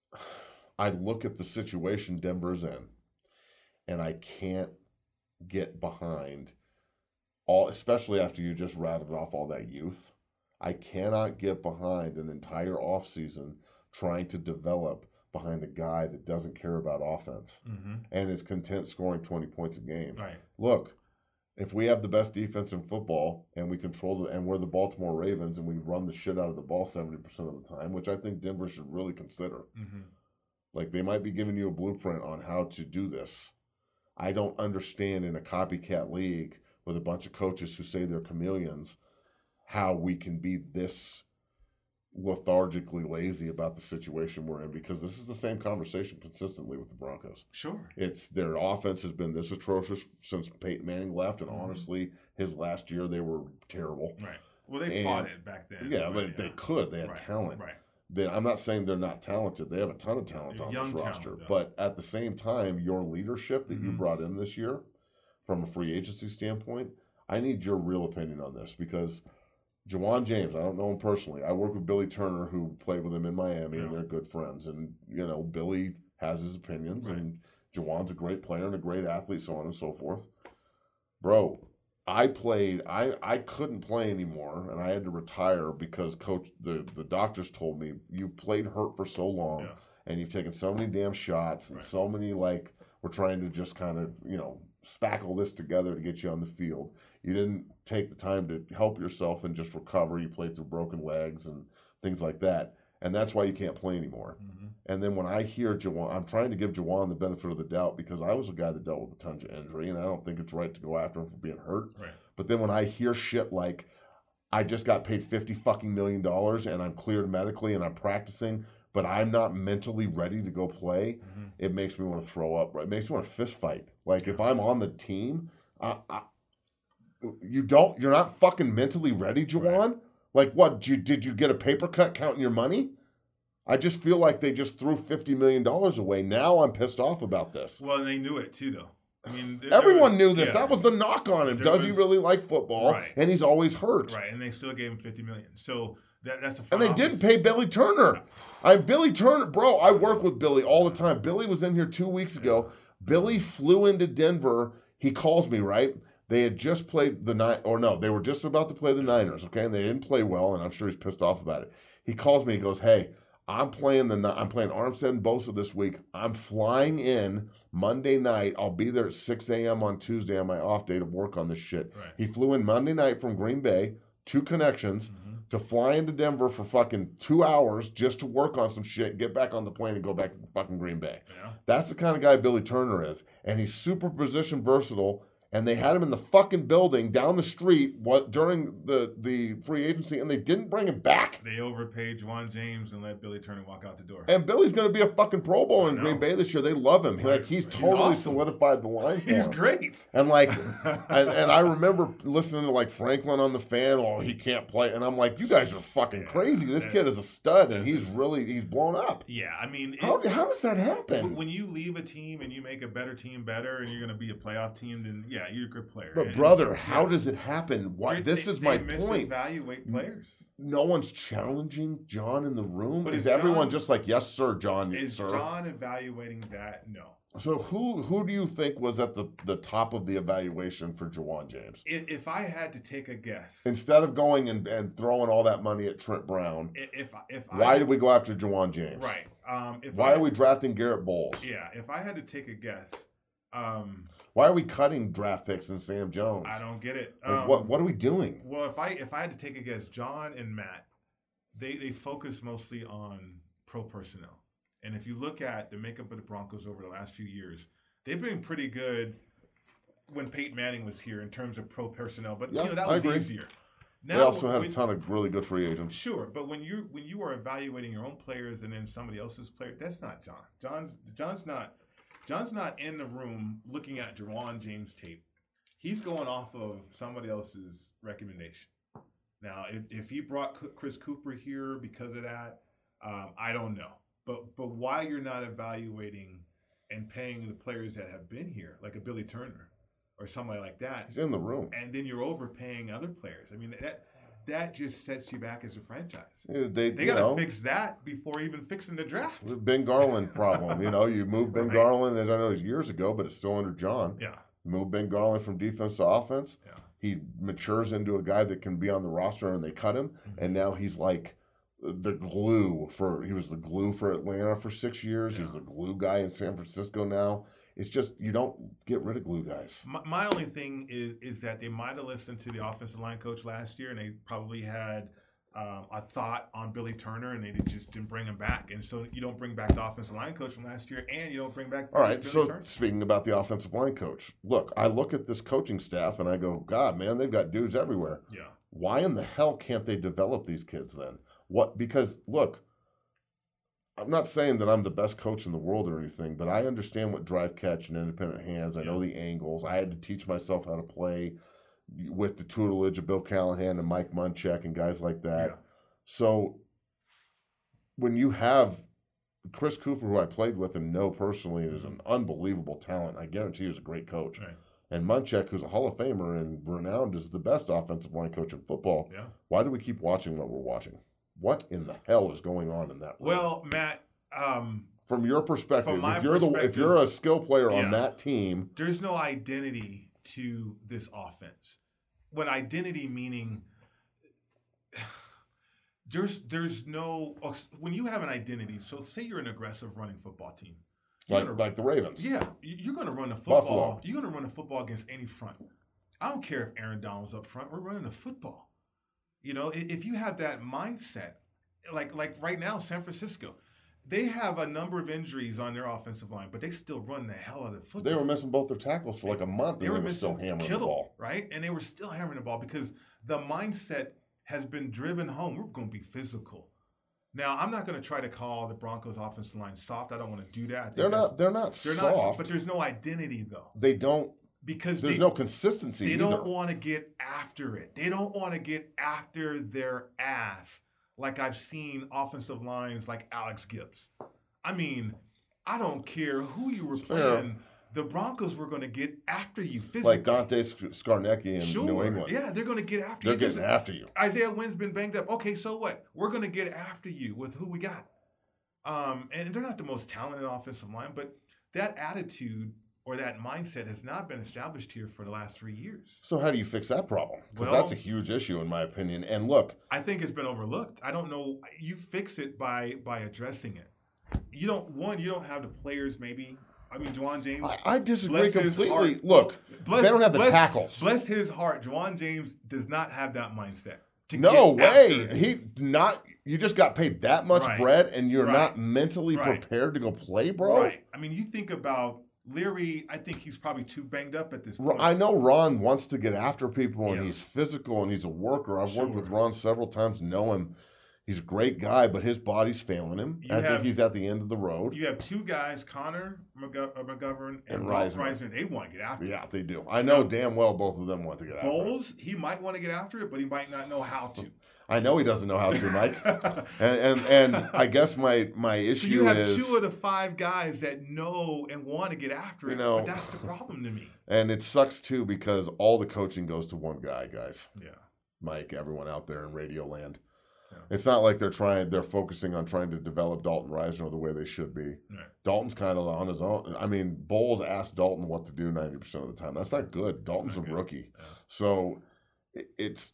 S2: I look at the situation Denver's in, and I can't get behind all, especially after you just rattled off all that youth. I cannot get behind an entire offseason trying to develop behind a guy that doesn't care about offense
S3: mm-hmm.
S2: and is content scoring twenty points a game.
S3: Right.
S2: Look, if we have the best defense in football and we control the, and we're the Baltimore Ravens and we run the shit out of the ball seventy percent of the time, which I think Denver should really consider.
S3: Mm-hmm.
S2: Like, they might be giving you a blueprint on how to do this. I don't understand in a copycat league with a bunch of coaches who say they're chameleons how we can be this lethargically lazy about the situation we're in, because this is the same conversation consistently with the Broncos.
S3: Sure.
S2: It's their offense has been this atrocious since Peyton Manning left, and
S3: Mm-hmm.
S2: honestly, his last year they were terrible.
S3: Right. Well, they
S2: And-
S3: fought it back then.
S2: Yeah,
S3: right,
S2: but
S3: yeah.
S2: they could. They had
S3: right.
S2: talent.
S3: Right.
S2: They, I'm not saying they're not talented. They have a ton of talent on
S3: Young
S2: this
S3: talent,
S2: roster.
S3: though.
S2: But at the same time, your leadership that you
S3: Mhm.
S2: brought in this year, from a free agency standpoint, I need your real opinion on this, because Jawan James, I don't know him personally. I work with Billy Turner, who played with him in Miami,
S3: Yeah.
S2: and they're good friends. And, you know, Billy has his opinions,
S3: Right.
S2: and Jawan's a great player and a great athlete, so on and so forth. Bro, I played, I, I couldn't play anymore, and I had to retire because coach the, the doctors told me, you've played hurt for so long,
S3: Yeah.
S2: and you've taken so many damn shots, and
S3: Right.
S2: so many, like, we're trying to just kind of, you know, spackle this together to get you on the field. You didn't take the time to help yourself and just recover. You played through broken legs and things like that. And that's why you can't play anymore.
S3: Mm-hmm.
S2: And then when I hear Jawan, I'm trying to give Jawan the benefit of the doubt, because I was a guy that dealt with a ton of injury, and I don't think it's right to go after him for being hurt.
S3: Right.
S2: But then when I hear shit like, I just got paid fifty fucking million dollars and I'm cleared medically and I'm practicing, but I'm not mentally ready to go play,
S3: Mm-hmm.
S2: it makes me want to throw up. Right? It makes me want to fist fight. Like, if I'm on the team, I, I, you don't, you're not fucking mentally ready, Jawan.
S3: Right.
S2: Like, what? Did you, did you get a paper cut counting your money? I just feel like they just threw fifty million dollars away. Now I'm pissed off about this.
S3: Well, and they knew it too, though. I mean, there,
S2: Everyone
S3: there was,
S2: knew this.
S3: yeah.
S2: That was the knock on him.
S3: There
S2: Does he
S3: was-
S2: really like football?
S3: Right.
S2: And he's always hurt.
S3: Right, and they still gave him fifty million. So that, that's the
S2: And they
S3: front
S2: didn't
S3: office.
S2: pay Billy Turner. I'm Billy Turner, bro. I work with Billy all the time. Billy was in here two weeks ago. Billy flew into Denver. He calls me, right? They had just played the nine, or no, they were just about to play the Niners, okay? And they didn't play well, and I'm sure he's pissed off about it. He calls me. He goes, "Hey, I'm playing the I'm playing Armstead and Bosa this week. I'm flying in Monday night. I'll be there at six a.m. on Tuesday on my off day to work on this shit."
S3: Right.
S2: He flew in Monday night from Green Bay, two connections,
S3: Mm-hmm.
S2: to fly into Denver for fucking two hours just to work on some shit, get back on the plane and go back to fucking Green Bay.
S3: Yeah.
S2: That's the kind of guy Billy Turner is. And he's super position versatile. And they had him in the fucking building down the street what during the, the free agency, and they didn't bring him back.
S3: They overpaid Juwan James and let Billy Turner walk out the door.
S2: And Billy's going to be a fucking Pro Bowl in
S3: I
S2: Green
S3: know.
S2: Bay this year. They love him.
S3: Right.
S2: Like, he's
S3: He's
S2: totally
S3: awesome.
S2: solidified the line for
S3: He's
S2: him.
S3: great.
S2: And like, and, and I remember listening to like Franklin on the fan. Oh, he can't play, and I'm like, you guys are fucking crazy. This
S3: Yeah.
S2: kid is a stud, and he's really he's blown up.
S3: Yeah, I mean, it,
S2: How how does that
S3: when,
S2: happen?
S3: when you leave a team and you make a better team better, and you're going to be a playoff team, then yeah, Yeah, you're a good player.
S2: But
S3: And
S2: brother,
S3: so,
S2: how
S3: yeah.
S2: does it happen? Why?
S3: They-
S2: This
S3: they-
S2: is my
S3: they
S2: point.
S3: Misevaluate players.
S2: No one's challenging John in the room.
S3: But
S2: is
S3: is
S2: everyone
S3: John-
S2: just like, yes, sir, John,
S3: Is
S2: sir?
S3: John evaluating that? No.
S2: So who who do you think was at the, the top of the evaluation for Jawan James?
S3: If, if I had to take a guess,
S2: Instead of going and, and throwing all that money at Trent Brown,
S3: i- if if
S2: why
S3: I,
S2: did we go after Jawan James?
S3: right? Um, if
S2: Why
S3: I,
S2: are we drafting Garrett Bowles?
S3: Yeah, if I had to take a guess, um,
S2: Why are we cutting draft picks and Sam Jones?
S3: I don't get it.
S2: Like,
S3: Um,
S2: what what are we doing?
S3: Well, if I if I had to take a guess, John and Matt, they they focus mostly on pro personnel. And if you look at the makeup of the Broncos over the last few years, they've been pretty good when Peyton Manning was here in terms of pro personnel. But
S2: Yeah,
S3: you know that
S2: I
S3: was
S2: agree.
S3: easier.
S2: They also had
S3: when-
S2: a ton of really good free agents.
S3: Sure, but when you when you are evaluating your own players and then somebody else's player, that's not John. John's John's not John's not in the room looking at Jawan James tape. He's going off of somebody else's recommendation. Now, if, if he brought C- Chris Cooper here because of that, um, I don't know. But but why you're not evaluating and paying the players that have been here, like a Billy Turner or somebody like that,
S2: He's in the room.
S3: and then you're overpaying other players. I mean, that that just sets you back as a franchise.
S2: They,
S3: They
S2: you
S3: got to
S2: know,
S3: fix that before even fixing the draft.
S2: the Ben Garland problem. You know, you move Ben
S3: Right.
S2: Garland, and I know it was years ago, but it's still under John.
S3: Yeah,
S2: Move Ben Garland from defense to offense.
S3: yeah.
S2: He matures into a guy that can be on the roster, and they cut him,
S3: Mm-hmm.
S2: and now he's like the glue for. He was the glue for Atlanta for six years. He's
S3: Yeah.
S2: the glue guy in San Francisco now. It's just you don't get rid of glue guys.
S3: My, my only thing is is that they might have listened to the offensive line coach last year, and they probably had um, a thought on Billy Turner, and they did- just didn't bring him back. And so you don't bring back the offensive line coach from last year, and you don't bring back
S2: All right,
S3: Billy
S2: so
S3: Turner.
S2: speaking about the offensive line coach, look, I look at this coaching staff and I go, God, man, they've got dudes everywhere.
S3: Yeah,
S2: Why in the hell can't they develop these kids then? What? Because look, I'm not saying that I'm the best coach in the world or anything, but I understand what drive, catch, and independent hands. I know the angles. I had to teach myself how to play with the tutelage of Bill Callahan and Mike Munchak and guys like that.
S3: Yeah.
S2: So when you have Chris Cooper, who I played with and know personally, is an unbelievable talent. I guarantee he was a great coach.
S3: right.
S2: And Munchak, who's a Hall of Famer and renowned as the best offensive line coach in football.
S3: Yeah.
S2: Why do we keep watching what we're watching? What in the hell is going on in that room?
S3: Well, Matt, um,
S2: from your perspective,
S3: from my
S2: if you're the if
S3: perspective,
S2: you're a skill player on
S3: yeah.
S2: that team,
S3: there's no identity to this offense. When identity meaning there's there's no when you have an identity. So say you're an aggressive running football team, you're
S2: like
S3: gonna,
S2: like the Ravens.
S3: yeah, you're going to run the football.
S2: Buffalo.
S3: You're going to run the football against any front. I don't care if Aaron Donald's up front. We're running the football. You know, i- if you have that mindset, like like right now, San Francisco, they have a number of injuries on their offensive line, but they still run the hell out of the football.
S2: They were missing both their tackles for like a month,
S3: They
S2: and
S3: were
S2: they were still
S3: missing
S2: hammering
S3: Kittle,
S2: the ball.
S3: right? And they were still hammering the ball because the mindset has been driven home. We're going to be physical. Now, I'm not going to try to call the Broncos offensive line soft. I don't want to do that. I think
S2: They're
S3: that's-
S2: not. They're not
S3: They're
S2: soft.
S3: not, but there's no identity though,
S2: they don't.
S3: because
S2: There's
S3: they,
S2: no consistency
S3: they
S2: either.
S3: don't want to get after it. They don't want to get after their ass like I've seen offensive lines like Alex Gibbs. I mean, I don't care who you were
S2: Fair.
S3: playing. The Broncos were going to get after you physically.
S2: like Dante Sc- Scarnecchia in
S3: sure.
S2: New England.
S3: Yeah, they're going to get after
S2: They're
S3: you.
S2: getting after you.
S3: Isaiah Wynn's been banged up. Okay, so what? We're going to get after you with who we got. Um, and they're not the most talented offensive line, but that attitude or that mindset has not been established here for the last three years.
S2: So how do you fix that problem? Because
S3: Well-
S2: that's a huge issue in my opinion. And look,
S3: I think it's been overlooked. I don't know. You fix it by by addressing it. You don't one. You don't have the players. Maybe. I mean, Jawan James.
S2: I, I disagree
S3: bless his
S2: completely.
S3: heart.
S2: Look,
S3: Bless-
S2: they don't have the
S3: bless-
S2: tackles.
S3: Bless his heart. Jawan James does not have that mindset. To
S2: No
S3: get
S2: way.
S3: after it.
S2: He not. You just got paid that much
S3: Right.
S2: bread, and you're
S3: Right.
S2: not mentally
S3: Right.
S2: prepared to go play, bro.
S3: Right. I mean, you think about Leary. I think he's probably too banged up at this
S2: Ro-
S3: point.
S2: I know Ron wants to get after people, and
S3: Yeah.
S2: he's physical, and he's a worker. I've worked with
S3: Sure.
S2: Ron several times, know him. He's a great guy, but his body's failing him.
S3: You
S2: I think
S3: have-
S2: he's at the end of the road.
S3: You have two guys, Connor McGo- uh, McGovern and,
S2: And
S3: Ralph
S2: Reisner.
S3: Reisner. They want to get after it.
S2: Yeah, they do. I know damn well both of them want to get after it.
S3: Bowles, he might want to get after it, but he might not know how to.
S2: I know he doesn't know how to, Mike. and, and and I guess my my issue
S3: so you have
S2: is
S3: two of the five guys that know and want to get after it. You know, but that's the problem to me.
S2: And it sucks too because all the coaching goes to one guy, guys.
S3: Yeah.
S2: Mike, everyone out there in radio land.
S3: Yeah.
S2: It's not like they're trying, they're focusing on trying to develop Dalton Risner the way they should be.
S3: Right.
S2: Dalton's kind of on his own. I mean, Bowles asked Dalton what to do ninety percent of the time. That's not good. Dalton's not a good. rookie. Yeah. So it, it's,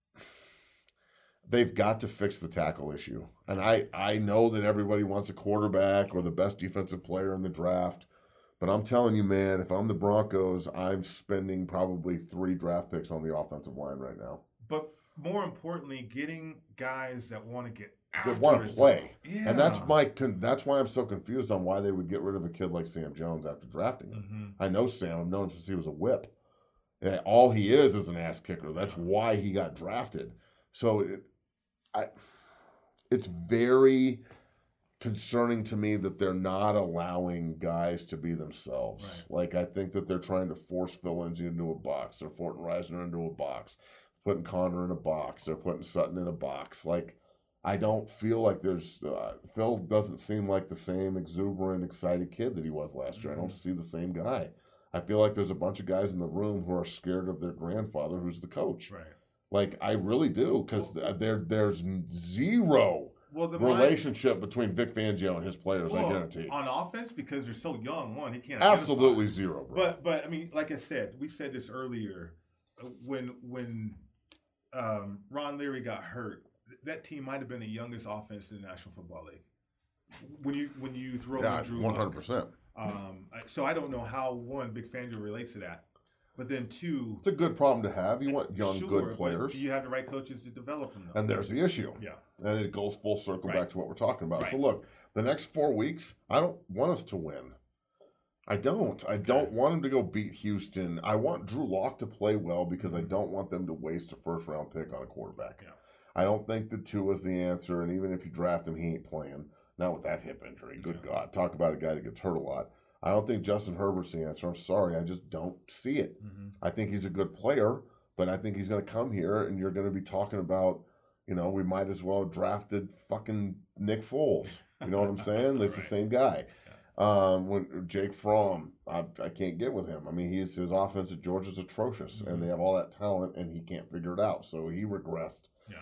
S2: they've got to fix the tackle issue. And I, I know that everybody wants a quarterback or the best defensive player in the draft. But I'm telling you, man, if I'm the Broncos, I'm spending probably three draft picks on the offensive line right now.
S3: But more importantly, getting guys that want to get after
S2: that want to play.
S3: Yeah.
S2: And that's my that's why I'm so confused on why they would get rid of a kid like Sam Jones after drafting him.
S3: Mm-hmm.
S2: I know Sam. I've known him since he was a whip. And all he is is an ass kicker. That's why he got drafted. So it, I, it's very concerning to me that they're not allowing guys to be themselves.
S3: Right.
S2: Like, I think that they're trying to force Phil Lindsay into a box. They're putting Risner into a box. Putting Connor in a box. They're putting Sutton in a box. Like, I don't feel like there's uh, – Phil doesn't seem like the same exuberant, excited kid that he was last year. Mm-hmm. I don't see the same guy. I feel like there's a bunch of guys in the room who are scared of their grandfather who's the coach.
S3: Right.
S2: Like, I really do because well, there there's zero well, the relationship mind, between Vic Fangio and his players,
S3: well,
S2: I guarantee.
S3: On offense, because they're so young, one, he can't
S2: Absolutely
S3: identify.
S2: zero, bro.
S3: But, but, I mean, like I said, we said this earlier, when when um, Ron Leary got hurt, that team might have been the youngest offense in the National Football League. When you when you throw
S2: yeah,
S3: in Drew
S2: one hundred percent.
S3: Um, so I don't know how, one, Vic Fangio relates to that. But then, two...
S2: It's a good problem to have. You want young,
S3: sure,
S2: good players.
S3: Do you have the right coaches to develop them, though?
S2: And there's the issue.
S3: Yeah.
S2: And it goes full circle
S3: right.
S2: back to what we're talking about.
S3: Right.
S2: So, look, the next four weeks, I don't want us to win. I don't. I don't want them to go beat Houston. I want Drew Lock to play well because I don't want them to waste a first-round pick on a quarterback.
S3: Yeah.
S2: I don't think that Tua's the answer, and even if you draft him, he ain't playing. Not with that hip injury. Good yeah. God. Talk about a guy that gets hurt a lot. I don't think Justin Herbert's the answer. I'm sorry. I just don't see it.
S3: Mm-hmm.
S2: I think he's a good player, but I think he's going to come here, and you're going to be talking about, you know, we might as well have drafted fucking Nick Foles. You know what I'm saying? It's right. the same guy. Yeah. Um, when Jake Fromm, I, I can't get with him. I mean, he's, his offense at Georgia's atrocious, mm-hmm. and they have all that talent, and he can't figure it out. So he regressed.
S3: Yeah.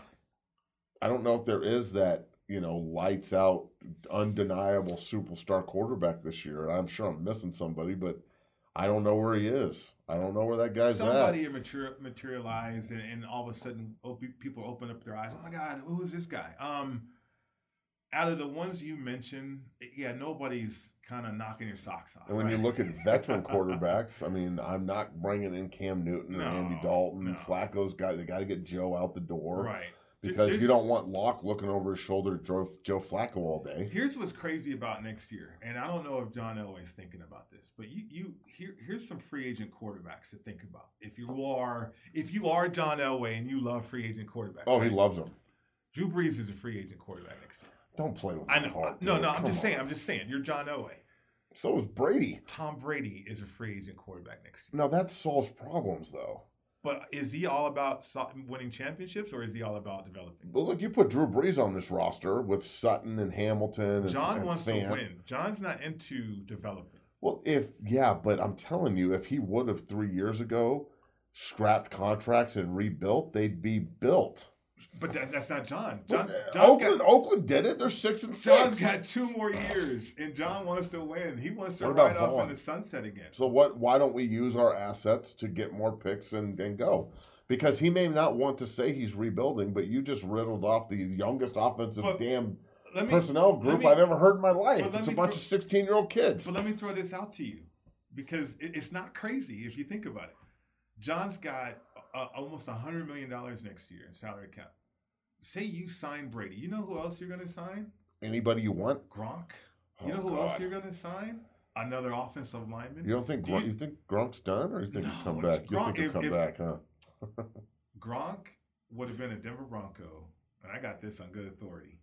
S2: I don't know if there is that, you know, lights out, undeniable superstar quarterback this year. I'm sure I'm missing somebody, but I don't know where he is. I don't know where that guy's
S3: somebody
S2: at.
S3: Somebody materialized, and, and all of a sudden, people open up their eyes. Oh my God, who is this guy? Um, out of the ones you mentioned, yeah, nobody's kind of knocking your socks off.
S2: And when
S3: right?
S2: you look at veteran quarterbacks, I mean, I'm not bringing in Cam Newton
S3: no,
S2: and Andy Dalton.
S3: No.
S2: Flacco's got they got to get Joe out the door,
S3: right?
S2: Because
S3: There's,
S2: you don't want Locke looking over his shoulder at Joe, Joe Flacco all day.
S3: Here's what's crazy about next year, and I don't know if John Elway's thinking about this, but you, you here, here's some free agent quarterbacks to think about. If you are if you are John Elway and you love free agent quarterbacks,
S2: oh,
S3: right?
S2: he loves them.
S3: Drew Brees is a free agent quarterback next year.
S2: Don't play with
S3: I
S2: my
S3: know.
S2: heart.
S3: No,
S2: dude.
S3: no, I'm
S2: Come
S3: just
S2: on.
S3: saying. I'm just saying. You're John Elway.
S2: So is Brady.
S3: Tom Brady is a free agent quarterback next year.
S2: No, that solves problems, though.
S3: But is he all about winning championships, or is he all about developing?
S2: Well, look, you put Drew Brees on this roster with Sutton and Hamilton. And,
S3: John
S2: and
S3: wants
S2: Fant.
S3: to win. John's not into developing.
S2: Well, if yeah, but I'm telling you, if he would have three years ago scrapped contracts and rebuilt, they'd be built.
S3: But that, that's not John. John
S2: Oakland,
S3: got,
S2: Oakland did it. They're six and six.
S3: John's got two more years, and John wants to win. He wants to ride off in the sunset again.
S2: So what? Why don't we use our assets to get more picks and, and go? Because he may not want to say he's rebuilding, but you just riddled off the youngest offensive but damn me, personnel group me, I've ever heard in my life. It's a bunch throw, of sixteen-year-old kids.
S3: But let me throw this out to you, because it, it's not crazy if you think about it. John's got uh, almost one hundred million dollars next year in salary cap. Say you sign Brady. You know who else you're going to sign?
S2: Anybody you want?
S3: Gronk. You
S2: oh,
S3: know who
S2: God.
S3: else you're going to sign? Another offensive lineman.
S2: You don't think
S3: Do
S2: Gronk,
S3: you,
S2: you think Gronk's done, or you think
S3: no,
S2: he'll come back? You
S3: Gronk,
S2: think he'll
S3: if,
S2: come
S3: if,
S2: back, huh?
S3: Gronk would have been a Denver Bronco, and I got this on good authority,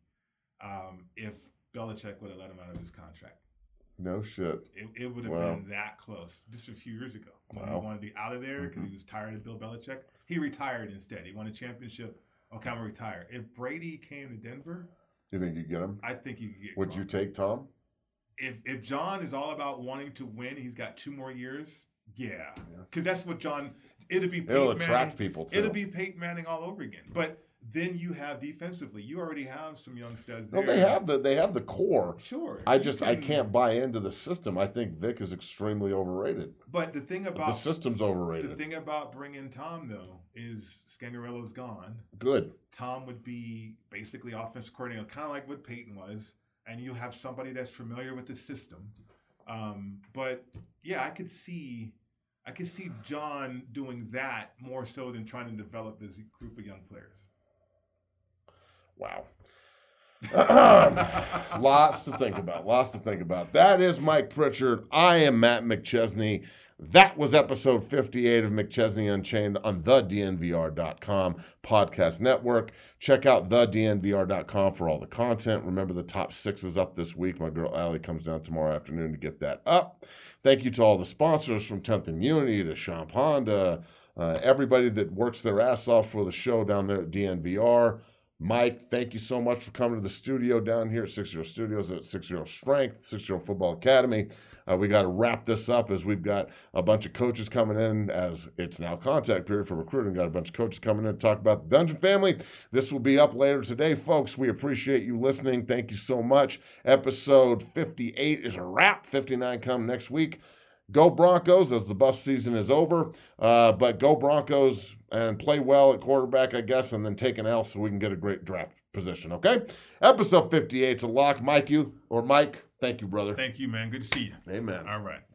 S3: um, if Belichick would have let him out of his contract.
S2: No shit.
S3: It, it would have
S2: wow.
S3: been that close just a few years ago. When
S2: wow.
S3: he wanted to be out of there because mm-hmm. he was tired of Bill Belichick. He retired instead. He won a championship okay, I'm gonna retire. If Brady came to Denver,
S2: You think you get him?
S3: I think you could get.
S2: Would
S3: Gronk.
S2: you take Tom?
S3: If if John is all about wanting to win, he's got two more years. Yeah, because that's what John. It'll be Peyton
S2: It'll
S3: Manning.
S2: attract people too.
S3: It'll be Peyton Manning all over again. But then you have defensively, you already have some young studs
S2: No,
S3: there.
S2: they have the they have the core.
S3: Sure.
S2: I
S3: you
S2: just
S3: can-
S2: I can't buy into the system. I think Vic is extremely overrated.
S3: But the thing
S2: The
S3: about
S2: system's
S3: the
S2: overrated.
S3: thing about bringing Tom though is Scangarello's gone.
S2: Good.
S3: Tom would be basically offensive coordinator, kind of like what Peyton was, and you have somebody that's familiar with the system. Um, but yeah, I could see, I could see John doing that more so than trying to develop this group of young players.
S2: Wow. Lots to think about. Lots to think about. That is Mike Pritchard. I am Matt McChesney. That was episode fifty-eight of McChesney Unchained on the D N V R dot com podcast network. Check out the D N V R dot com for all the content. Remember, the top six is up this week. My girl Allie comes down tomorrow afternoon to get that up. Thank you to all the sponsors, from tenth and Unity to Champ Honda, uh, everybody that works their ass off for the show down there at D N V R. Mike, thank you so much for coming to the studio down here at Six Zero Studios at Six Zero Strength, Six Zero Football Academy. Uh, we got to wrap this up as we've got a bunch of coaches coming in, as it's now contact period for recruiting. Got a bunch of coaches coming in to talk about the Dungeon Family. This will be up later today, folks. We appreciate you listening. Thank you so much. Episode fifty-eight is a wrap. fifty-nine come next week. Go Broncos, as the bus season is over. Uh, but go Broncos and play well at quarterback, I guess, and then take an L so we can get a great draft position, okay? Episode fifty-eight is a lock. Mike, you, or Mike, thank you, brother.
S3: Thank you, man. Good to see you.
S2: Amen.
S3: All right.